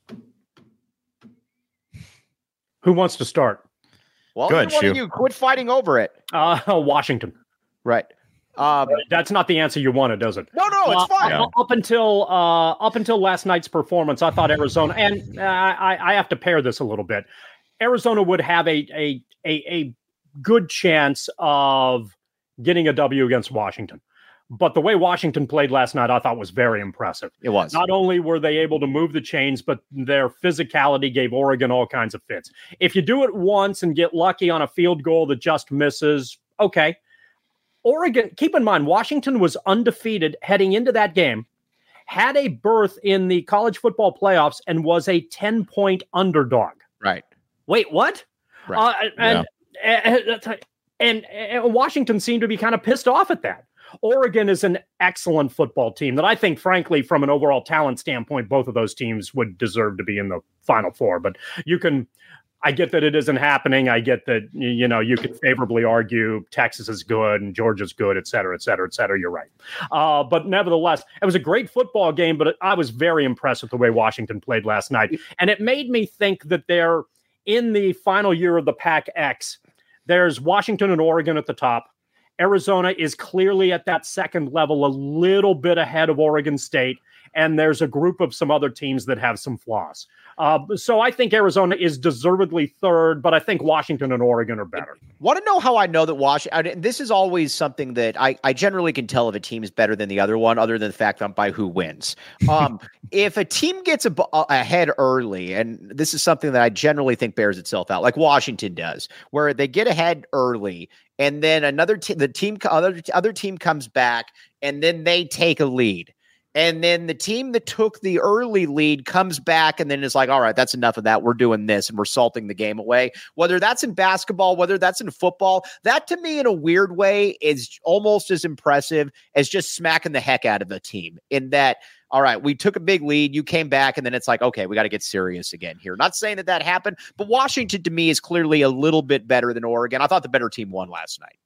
Who wants to start? Well, Good, one Shu. of you quit fighting over it. Uh, Washington. Right. Um, That's not the answer you wanted, does it? no, no, it's Uh, fine. Yeah. Up until uh, up until last night's performance, I thought Arizona, and uh, I, I have to pair this a little bit. Arizona would have a a a, a good chance of getting a W against Washington. But the way Washington played last night, I thought was very impressive. It was. Not only were they able to move the chains, but their physicality gave Oregon all kinds of fits. If you do it once and get lucky on a field goal that just misses, okay. Oregon, keep in mind, Washington was undefeated heading into that game, had a berth in the college football playoffs, and was a ten-point underdog. Right. Wait, what? Right. Uh, and, and, and, and Washington seemed to be kind of pissed off at that. Oregon is an excellent football team that I think, frankly, from an overall talent standpoint, both of those teams would deserve to be in the Final Four. But you can, I get that it isn't happening. I get that, you know, you could favorably argue Texas is good and Georgia's good, et cetera, et cetera, et cetera. You're right. Uh, but nevertheless, it was a great football game, but I was very impressed with the way Washington played last night. And it made me think that they're in the final year of the Pac X. There's Washington and Oregon at the top. Arizona is clearly at that second level, a little bit ahead of Oregon State. And there's a group of some other teams that have some flaws. Uh, so I think Arizona is deservedly third, but I think Washington and Oregon are better. Want to know how I know that Washington? This is always something that I, I generally can tell if a team is better than the other one, other than the fact that by who wins. Um, if a team gets a, a, ahead early, and this is something that I generally think bears itself out, like Washington does, where they get ahead early, and then another te- the team other other team comes back, and then they take a lead. And then the team that took the early lead comes back and then is like, all right, that's enough of that. We're doing this and we're salting the game away. Whether that's in basketball, whether that's in football, that to me in a weird way is almost as impressive as just smacking the heck out of the team in that, all right, we took a big lead. You came back and then it's like, okay, we got to get serious again here. Not saying that that happened, but Washington to me is clearly a little bit better than Oregon. I thought the better team won last night.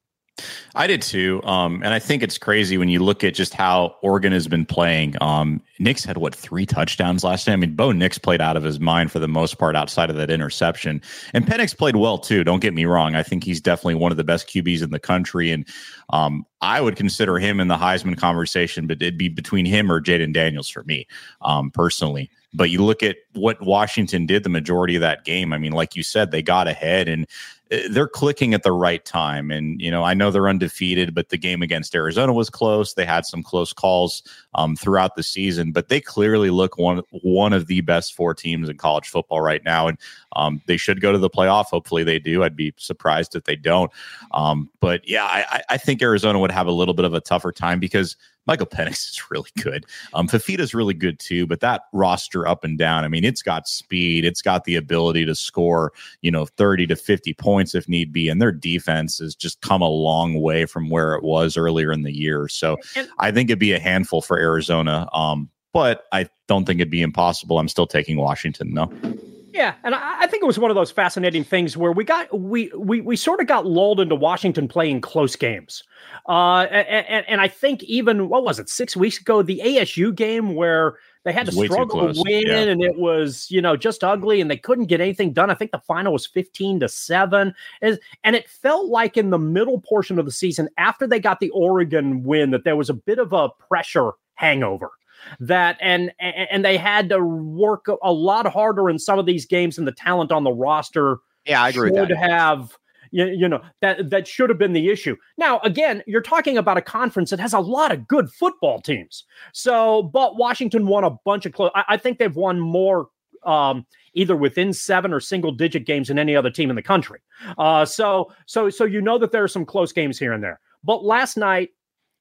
I did too. Um, and I think it's crazy when you look at just how Oregon has been playing. Um, Nix had, what, three touchdowns last night? I mean, Bo Nix played out of his mind for the most part outside of that interception. And Penix played well too. Don't get me wrong. I think he's definitely one of the best Q Bs in the country. And um, I would consider him in the Heisman conversation, but it'd be between him or Jaden Daniels for me um, personally. But you look at what Washington did the majority of that game. I mean, like you said, they got ahead and they're clicking at the right time. And, you know, I know they're undefeated, but the game against Arizona was close. They had some close calls um, throughout the season, but they clearly look one, one of the best four teams in college football right now. And um, they should go to the playoff. Hopefully they do. I'd be surprised if they don't. Um, but yeah, I, I think Arizona would have a little bit of a tougher time because Michael Penix is really good. Um, Fafita's really good too, but that roster up and down, I mean, it's got speed. It's got the ability to score, you know, thirty to fifty points if need be. And their defense has just come a long way from where it was earlier in the year. So And- I think it'd be a handful for Arizona. Um, but I don't think it'd be impossible. I'm still taking Washington, no. Yeah, and I, I think it was one of those fascinating things where we got we we we sort of got lulled into Washington playing close games, uh, and, and and I think even what was it six weeks ago, the A S U game where they had It to was way too struggle to close. win, Yeah. and it was you know just ugly, and they couldn't get anything done. I think the final was fifteen to seven, and and it felt like in the middle portion of the season after they got the Oregon win that there was a bit of a pressure hangover. That and and they had to work a lot harder in some of these games, and the talent on the roster Yeah, I agree with should that. have you, you know that that should have been the issue. Now again, you're talking about a conference that has a lot of good football teams. So, but Washington won a bunch of close. I, I think they've won more um, either within seven or single digit games than any other team in the country. Uh, so so so you know that there are some close games here and there. But last night,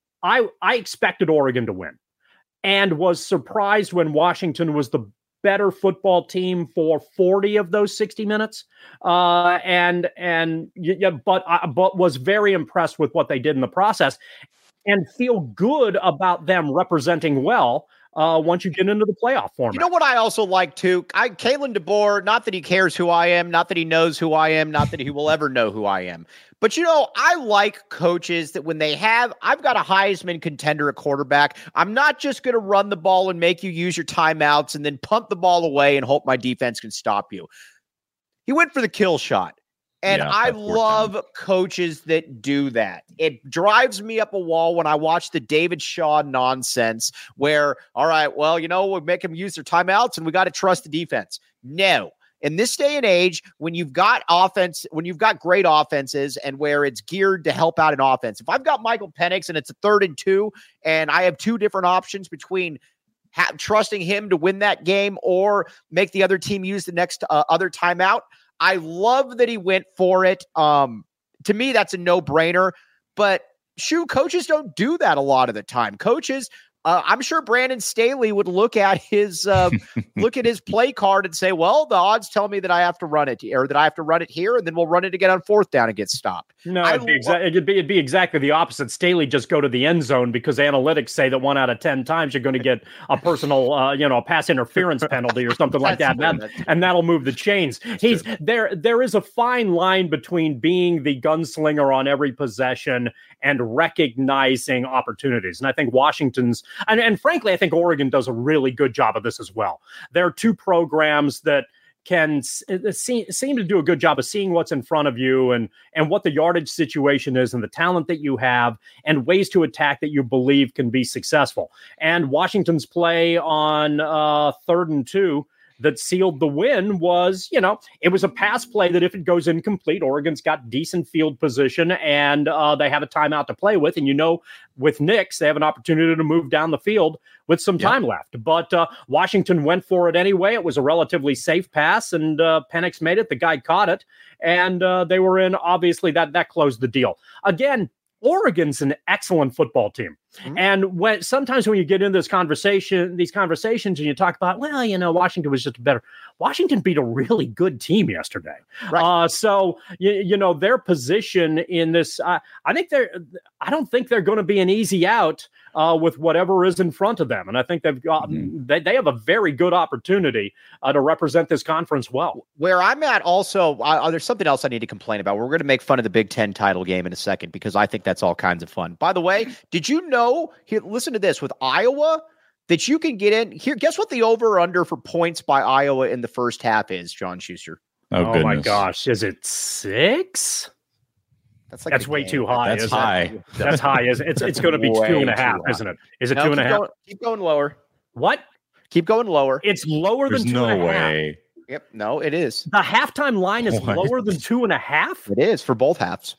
I I expected Oregon to win. And was surprised when Washington was the better football team for forty of those sixty minutes, uh, and and yeah, but uh, but was very impressed with what they did in the process, and feel good about them representing well uh, once you get into the playoff format. You know what I also like too? I Kalen DeBoer, not that he cares who I am, not that he knows who I am, not that he will ever know who I am. But, you know, I like coaches that when they have, I've got a Heisman contender at quarterback. I'm not just going to run the ball and make you use your timeouts and then punt the ball away and hope my defense can stop you. He went for the kill shot. And yeah, I love time. coaches that do that. It drives me up a wall when I watch the David Shaw nonsense where, all right, well, you know, we'll make them use their timeouts and we got to trust the defense. No. In this day and age, when you've got offense, when you've got great offenses and where it's geared to help out an offense, if I've got Michael Penix and it's a third and two, and I have two different options between ha- trusting him to win that game or make the other team use the next uh, other timeout, I love that he went for it. Um, to me, that's a no-brainer. But shoot, coaches don't do that a lot of the time. Coaches. Uh, I'm sure Brandon Staley would look at his uh, look at his play card and say, "Well, the odds tell me that I have to run it, or that I have to run it here, and then we'll run it again on fourth down and get stopped." No, it'd be, exa- it'd, be, it'd be exactly the opposite. Staley just go to the end zone because analytics say that one out of ten times you're going to get a personal, uh, you know, pass interference penalty or something like that, and, that and that'll move the chains. That's He's true. there. There is a fine line between being the gunslinger on every possession and recognizing opportunities. And I think Washington's, and, and frankly, I think Oregon does a really good job of this as well. There are two programs that can see, seem to do a good job of seeing what's in front of you and, and what the yardage situation is and the talent that you have and ways to attack that you believe can be successful. And Washington's play on uh, third and two that sealed the win was, you know, it was a pass play that if it goes incomplete, Oregon's got decent field position and uh, they have a timeout to play with. And, you know, with Nix, they have an opportunity to move down the field with some time yeah. left. But uh, Washington went for it anyway. It was a relatively safe pass and uh, Penix made it. The guy caught it and uh, they were in. Obviously, that that closed the deal. Again, Oregon's an excellent football team. Mm-hmm. And when sometimes when you get into this conversation, these conversations, and you talk about, well, you know, Washington was just better. Washington beat a really good team yesterday. Right. Uh, so, you, you know, their position in this, uh, I think they're, I don't think they're going to be an easy out uh, with whatever is in front of them. And I think they've got, mm-hmm. they, they have a very good opportunity uh, to represent this conference well. Where I'm at also, uh, there's something else I need to complain about. We're going to make fun of the Big Ten title game in a second because I think that's all kinds of fun. By the way, did you know, here, listen to this, with Iowa, that you can get in here. Guess what the over under for points by Iowa in the first half is, John Schuster? Oh, oh my gosh. Is it six? That's like That's way game. too high. That's high. It? That's high. Is It's it's going to be two and a half, isn't it? Is it no, two and a half? Going, keep going lower. What? Keep going lower. It's lower There's than two no and a way. half. Yep. No, it is. The halftime line is What? lower than two and a half? It is for both halves.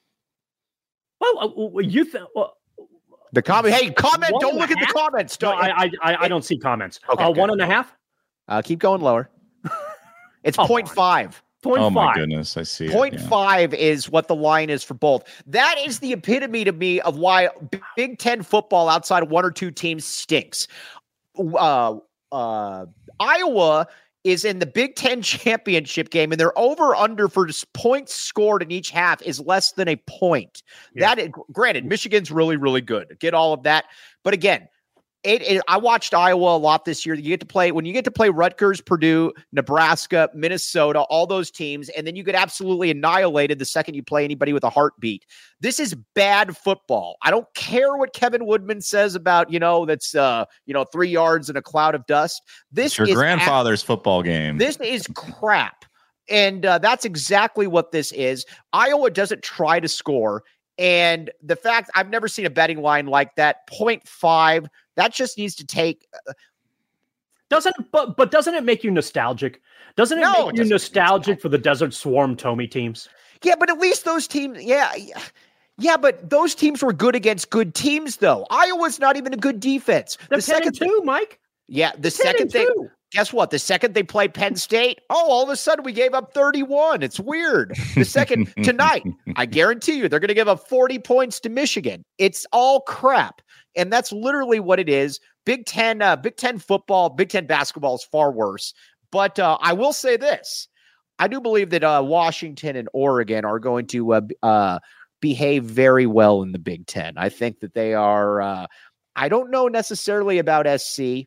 Well, uh, you think... Well, The comment. Hey, comment. One Don't look at half? the comments. No, Don't, I, I, I, I don't see comments. Okay, uh, okay. One and a half? Uh, keep going lower. It's Come point on. five. Point Oh my five. goodness, I see. Point it, yeah. five is what the line is for both. That is the epitome to me of why Big Ten football outside of one or two teams stinks. Uh, uh, Iowa is in the Big Ten championship game, and their over-under for points scored in each half is less than a point. Yeah. That is, granted, Michigan's really, really good. Get all of that. But again, It, it, I watched Iowa a lot this year. You get to play when you get to play Rutgers, Purdue, Nebraska, Minnesota, all those teams, and then you get absolutely annihilated the second you play anybody with a heartbeat. This is bad football. I don't care what Kevin Woodman says about, you know, that's uh, you know, three yards in a cloud of dust. This It's your is grandfather's at, football game. This is crap, and uh, that's exactly what this is. Iowa doesn't try to score. And the fact I've never seen a betting line like that, point five, that just needs to take. Uh, doesn't but but doesn't it make you nostalgic? Doesn't it No, make it you doesn't. nostalgic for the Desert Swarm Tommy teams? yeah, but at least those teams, yeah, yeah, but those teams were good against good teams, though. Iowa's not even a good defense. The, The ten second, and two, Mike. yeah, the ten second and thing. two. Guess what? The second they played Penn State, oh, all of a sudden we gave up thirty-one. It's weird. The second tonight, I guarantee you, they're going to give up forty points to Michigan. It's all crap, and that's literally what it is. Big Ten, uh, Big Ten football, Big Ten basketball is far worse. But uh, I will say this: I do believe that uh, Washington and Oregon are going to uh, uh, behave very well in the Big Ten. I think that they are. Uh, I don't know necessarily about S C.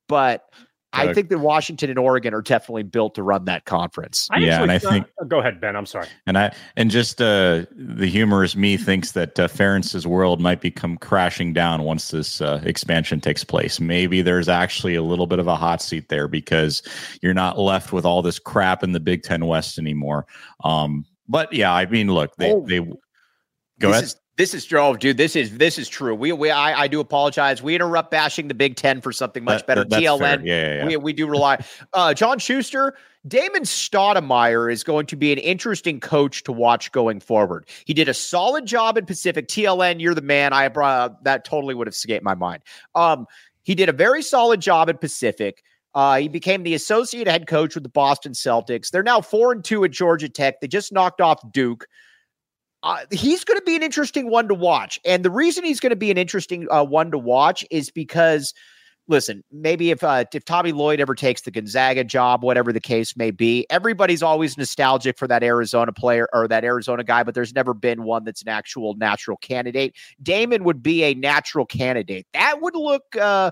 but I Uh, think that Washington and Oregon are definitely built to run that conference. I Yeah, and I thought- think- Go ahead, Ben. I'm sorry. And I and just uh, the humorous me thinks that uh, Ferentz's world might become crashing down once this uh, expansion takes place. Maybe there's actually a little bit of a hot seat there because you're not left with all this crap in the Big Ten West anymore. Um, but yeah, I mean, look, they Oh, they go this ahead. Is, this is oh, dude. This is this is true. We we I, I do apologize. We interrupt bashing the Big Ten for something much That- better. that- that's T L N. fair. Yeah, yeah, yeah. We we do rely. Uh, John Schuster, Damon Stoudemire is going to be an interesting coach to watch going forward. He did a solid job in Pacific. T L N, you're the man. I brought that totally would have escaped my mind. Um, he did a very solid job at Pacific. Uh, he became the associate head coach with the Boston Celtics. They're now four and two at Georgia Tech. They just knocked off Duke. Uh, he's going to be an interesting one to watch. And the reason he's going to be an interesting uh, one to watch is because, listen, maybe if uh, if Tommy Lloyd ever takes the Gonzaga job, whatever the case may be, everybody's always nostalgic for that Arizona player or that Arizona guy, but there's never been one that's an actual natural candidate. Damon would be a natural candidate. That would look, uh,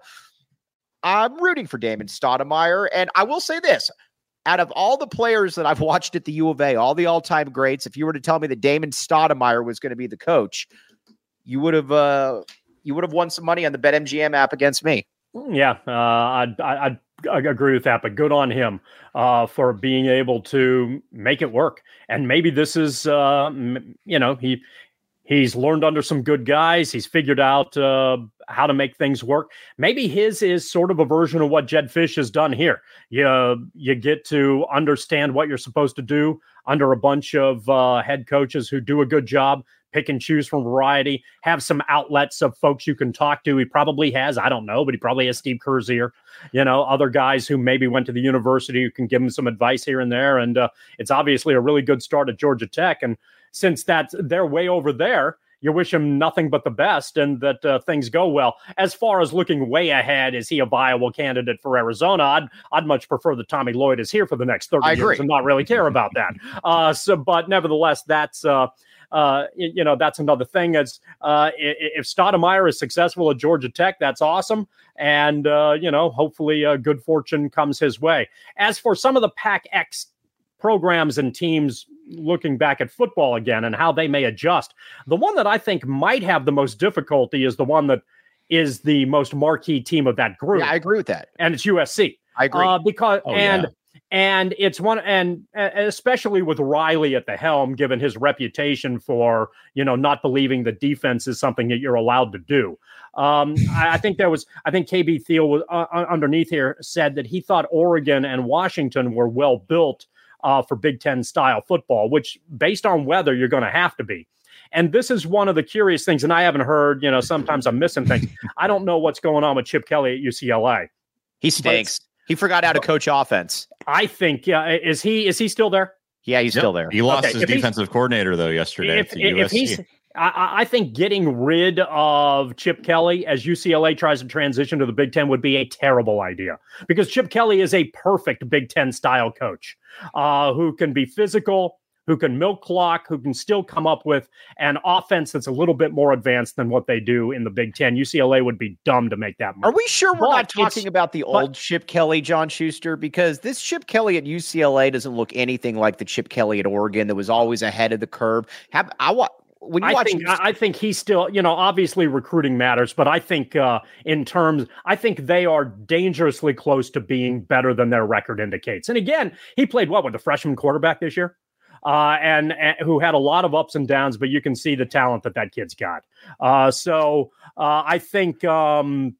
I'm rooting for Damon Stoudemire. And I will say this. Out of all the players that I've watched at the U of A, all the all-time greats, if you were to tell me that Damon Stoudemire was going to be the coach, you would have uh, you would have won some money on the BetMGM app against me. Yeah, uh, I'd, I'd, I'd agree with that, but good on him uh, for being able to make it work. And maybe this is, uh, you know, he he's learned under some good guys. He's figured out uh, how to make things work. Maybe his is sort of a version of what Jedd Fisch has done here. You, you get to understand what you're supposed to do under a bunch of uh, head coaches who do a good job, pick and choose from variety, have some outlets of folks you can talk to. He probably has, I don't know, but he probably has Steve Kerr's ear, you know, other guys who maybe went to the university who can give him some advice here and there. And uh, it's obviously a really good start at Georgia Tech. And since that's they're way over there, you wish him nothing but the best and that uh, things go well. As far as looking way ahead, is he a viable candidate for Arizona? I'd I'd much prefer that Tommy Lloyd is here for the next thirty I years agree. and not really care about that. Uh, so, but nevertheless, that's uh, uh, you, you know that's another thing. Is uh, if Stoudemire is successful at Georgia Tech, that's awesome, and uh, you know hopefully uh, good fortune comes his way. As for some of the Pac X programs and teams looking back at football again and how they may adjust, the one that I think might have the most difficulty is the one that is the most marquee team of that group. Yeah, I agree with that. And it's U S C. I agree. Uh, because Oh, and yeah. and it's one and uh, especially with Riley at the helm, given his reputation for you know not believing that defense is something that you're allowed to do. Um, I, I think there was I think K B Thiel was uh, underneath here said that he thought Oregon and Washington were well built Uh, for Big Ten style football, which based on weather, you're going to have to be. And this is one of the curious things. And I haven't heard, you know, sometimes I'm missing things. I don't know what's going on with Chip Kelly at U C L A. He stinks. He forgot how to coach offense. I think, yeah, is he, is he still there? Yeah, he's Yep. still there. He lost Okay, his if he's- defensive coordinator though yesterday If, to if U S C. he's, I, I think getting rid of Chip Kelly as U C L A tries to transition to the Big Ten would be a terrible idea because Chip Kelly is a perfect Big Ten style coach uh, who can be physical, who can milk clock, who can still come up with an offense that's a little bit more advanced than what they do in the Big Ten. U C L A would be dumb to make that move. Are we sure we're But not it's- talking about the old Chip Kelly, John Schuster? Because this Chip Kelly at U C L A doesn't look anything like the Chip Kelly at Oregon that was always ahead of the curve. Have I wa- when you I watch? think I I think he's still, you know, obviously recruiting matters, but I think uh, in terms, I think they are dangerously close to being better than their record indicates. And again, he played what with the freshman quarterback this year, uh, and, and who had a lot of ups and downs, but you can see the talent that that kid's got. Uh, so uh, I think. Um,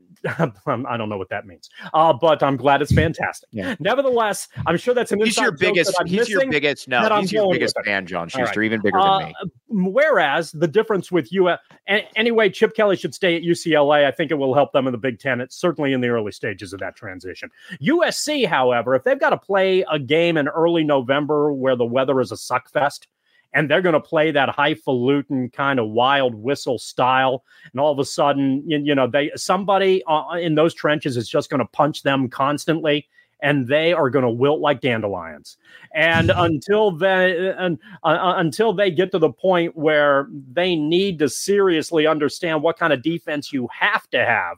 I don't know what that means, uh, but I'm glad it's fantastic. Yeah. Nevertheless, I'm sure that's an he's inside your joke biggest. that I'm He's your missing, biggest. No, that I'm he's your going biggest with it. fan, John All Schuster, right. even bigger Uh, than me. Whereas the difference with you, uh, anyway, Chip Kelly should stay at U C L A. I think it will help them in the Big Ten. It's certainly in the early stages of that transition. U S C, however, if they've got to play a game in early November where the weather is a suckfest, and they're going to play that highfalutin kind of wild whistle style, and all of a sudden, you, you know, they somebody uh, in those trenches is just going to punch them constantly, and they are going to wilt like dandelions. And until they and, uh, until they get to the point where they need to seriously understand what kind of defense you have to have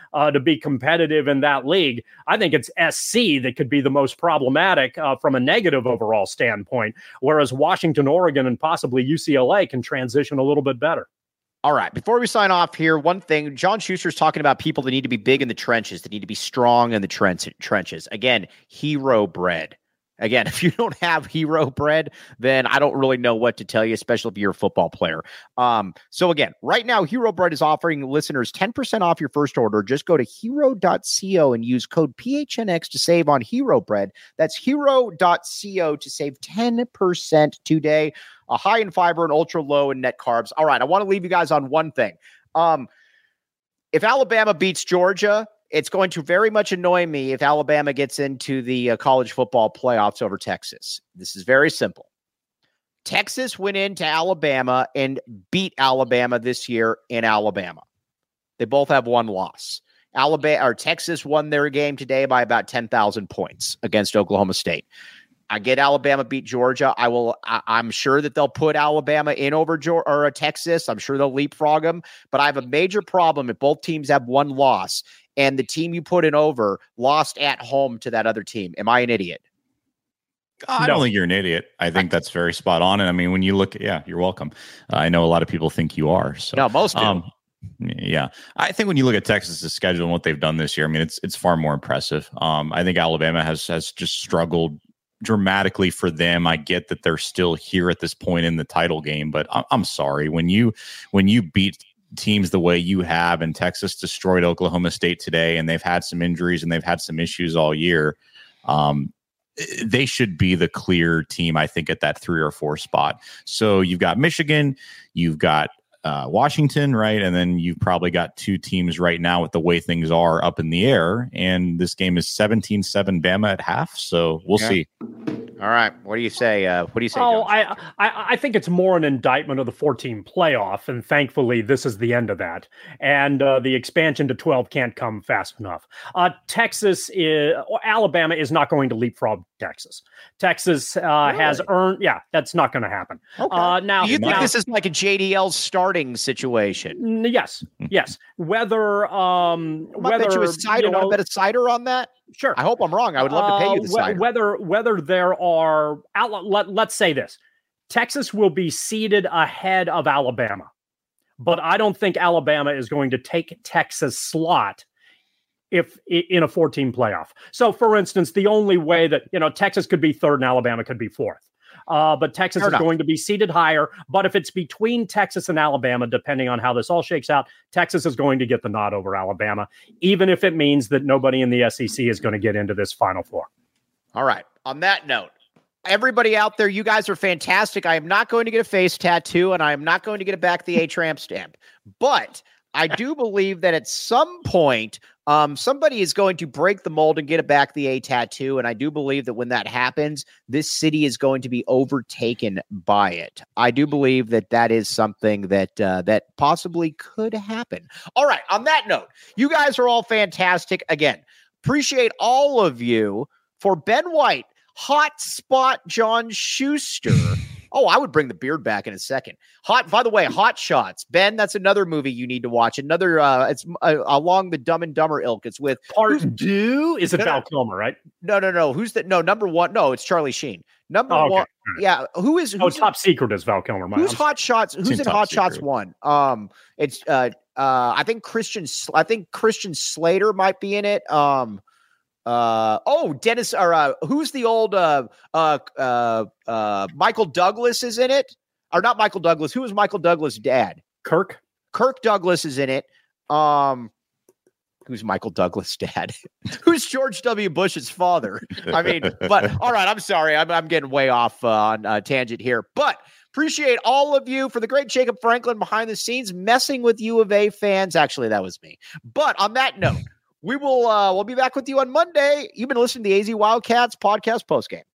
uh, to be competitive in that league. I think it's S C that could be the most problematic uh, from a negative overall standpoint, whereas Washington, Oregon, and possibly U C L A can transition a little bit better. All right. Before we sign off here, one thing, John Schuster's talking about people that need to be big in the trenches, that need to be strong in the trench, trenches. Again, hero bread. Again, if you don't have hero bread, then I don't really know what to tell you, especially if you're a football player. Um, so again, right now, Hero Bread is offering listeners ten percent off your first order. Just go to hero dot co and use code P H N X to save on Hero Bread. That's hero dot co to save ten percent today. A high in fiber and ultra low in net carbs. All right, I want to leave you guys on one thing. Um, if Alabama beats Georgia, it's going to very much annoy me if Alabama gets into the uh, college football playoffs over Texas. This is very simple. Texas went into Alabama and beat Alabama this year in Alabama. They both have one loss. Alabama or Texas won their game today by about ten thousand points against Oklahoma State. I get Alabama beat Georgia. I will. I, I'm sure that they'll put Alabama in over Georgia or uh, Texas. I'm sure they'll leapfrog them. But I have a major problem if both teams have one loss and the team you put in over lost at home to that other team. Am I an idiot? I don't no. think you're an idiot. I think that's very spot on. And I mean, when you look, yeah, you're welcome. Uh, I know a lot of people think you are. So no, most do. Um, yeah, I think when you look at Texas's schedule and what they've done this year, I mean, it's it's far more impressive. Um, I think Alabama has has just struggled dramatically for them. I get that they're still here at this point in the title game, but I'm, I'm sorry when you when you beat teams the way you have, and Texas destroyed Oklahoma State today, and they've had some injuries and they've had some issues all year. Um, they should be the clear team, I think, at that three or four spot. So you've got Michigan, you've got uh, Washington, right? And then you've probably got two teams right now with the way things are up in the air. And this game is seventeen seven Bama at half. So we'll yeah. see. All right. What do you say? Uh, what do you say? Oh, I, I I think it's more an indictment of the four-team playoff, and thankfully this is the end of that. And uh, the expansion to twelve can't come fast enough. Uh, Texas, is, Alabama is not going to leapfrog Texas. Texas uh, really? has earned. Yeah, that's not going to happen. Okay. Uh, now, do you think now, this is like a J D L starting situation? Yes, yes. Whether um, I whether bet you a cider. You know, want to bet a cider on that? Sure. I hope I'm wrong. I would love to pay you the uh, cider. Whether whether there are let, let's say this, Texas will be seeded ahead of Alabama, but I don't think Alabama is going to take Texas' slot if in a four-team playoff. So, for instance, the only way that you know Texas could be third and Alabama could be fourth. Uh, but Texas Fair is enough. going to be seated higher. But if it's between Texas and Alabama, depending on how this all shakes out, Texas is going to get the nod over Alabama, even if it means that nobody in the S E C is going to get into this Final Four. All right. On that note, everybody out there, you guys are fantastic. I am not going to get a face tattoo, and I am not going to get a back the A-Tramp stamp. But I do believe that at some point, um, somebody is going to break the mold and get a back the A tattoo. And I do believe that when that happens, this city is going to be overtaken by it. I do believe that that is something that uh, that possibly could happen. All right. On that note, you guys are all fantastic. Again, appreciate all of you. For Ben White, Hot Spot John Schuster. Oh, I would bring the beard back in a second. Hot, by the way, Hot Shots. Ben, that's another movie you need to watch. Another, uh, it's uh, along the Dumb and Dumber ilk. It's with Part Two. Is it Val Kilmer, right? No, no, no. Who's that? No, number one. No, it's Charlie Sheen. Number oh, okay. one. Yeah. Who is? Who's oh, Top Secret is Val Kilmer. Who's I'm Hot sorry. Shots? Who's in Hot Secret. Shots One? Um, it's uh, uh, I think Christian. I think Christian Slater might be in it. Um. Uh oh, Dennis or uh, who's the old uh uh uh uh Michael Douglas is in it, or not Michael Douglas? Who is Michael Douglas' dad? Kirk. Kirk Douglas is in it. Um, who's Michael Douglas' dad? Who's George W. Bush's father? I mean, but all right, I'm sorry, I'm I'm getting way off uh, on a tangent here, but. Appreciate all of you for the great Jacob Franklin behind the scenes messing with U of A fans. Actually, that was me. But on that note. We will uh, we'll be back with you on Monday. You've been listening to the A Z Wildcats podcast postgame.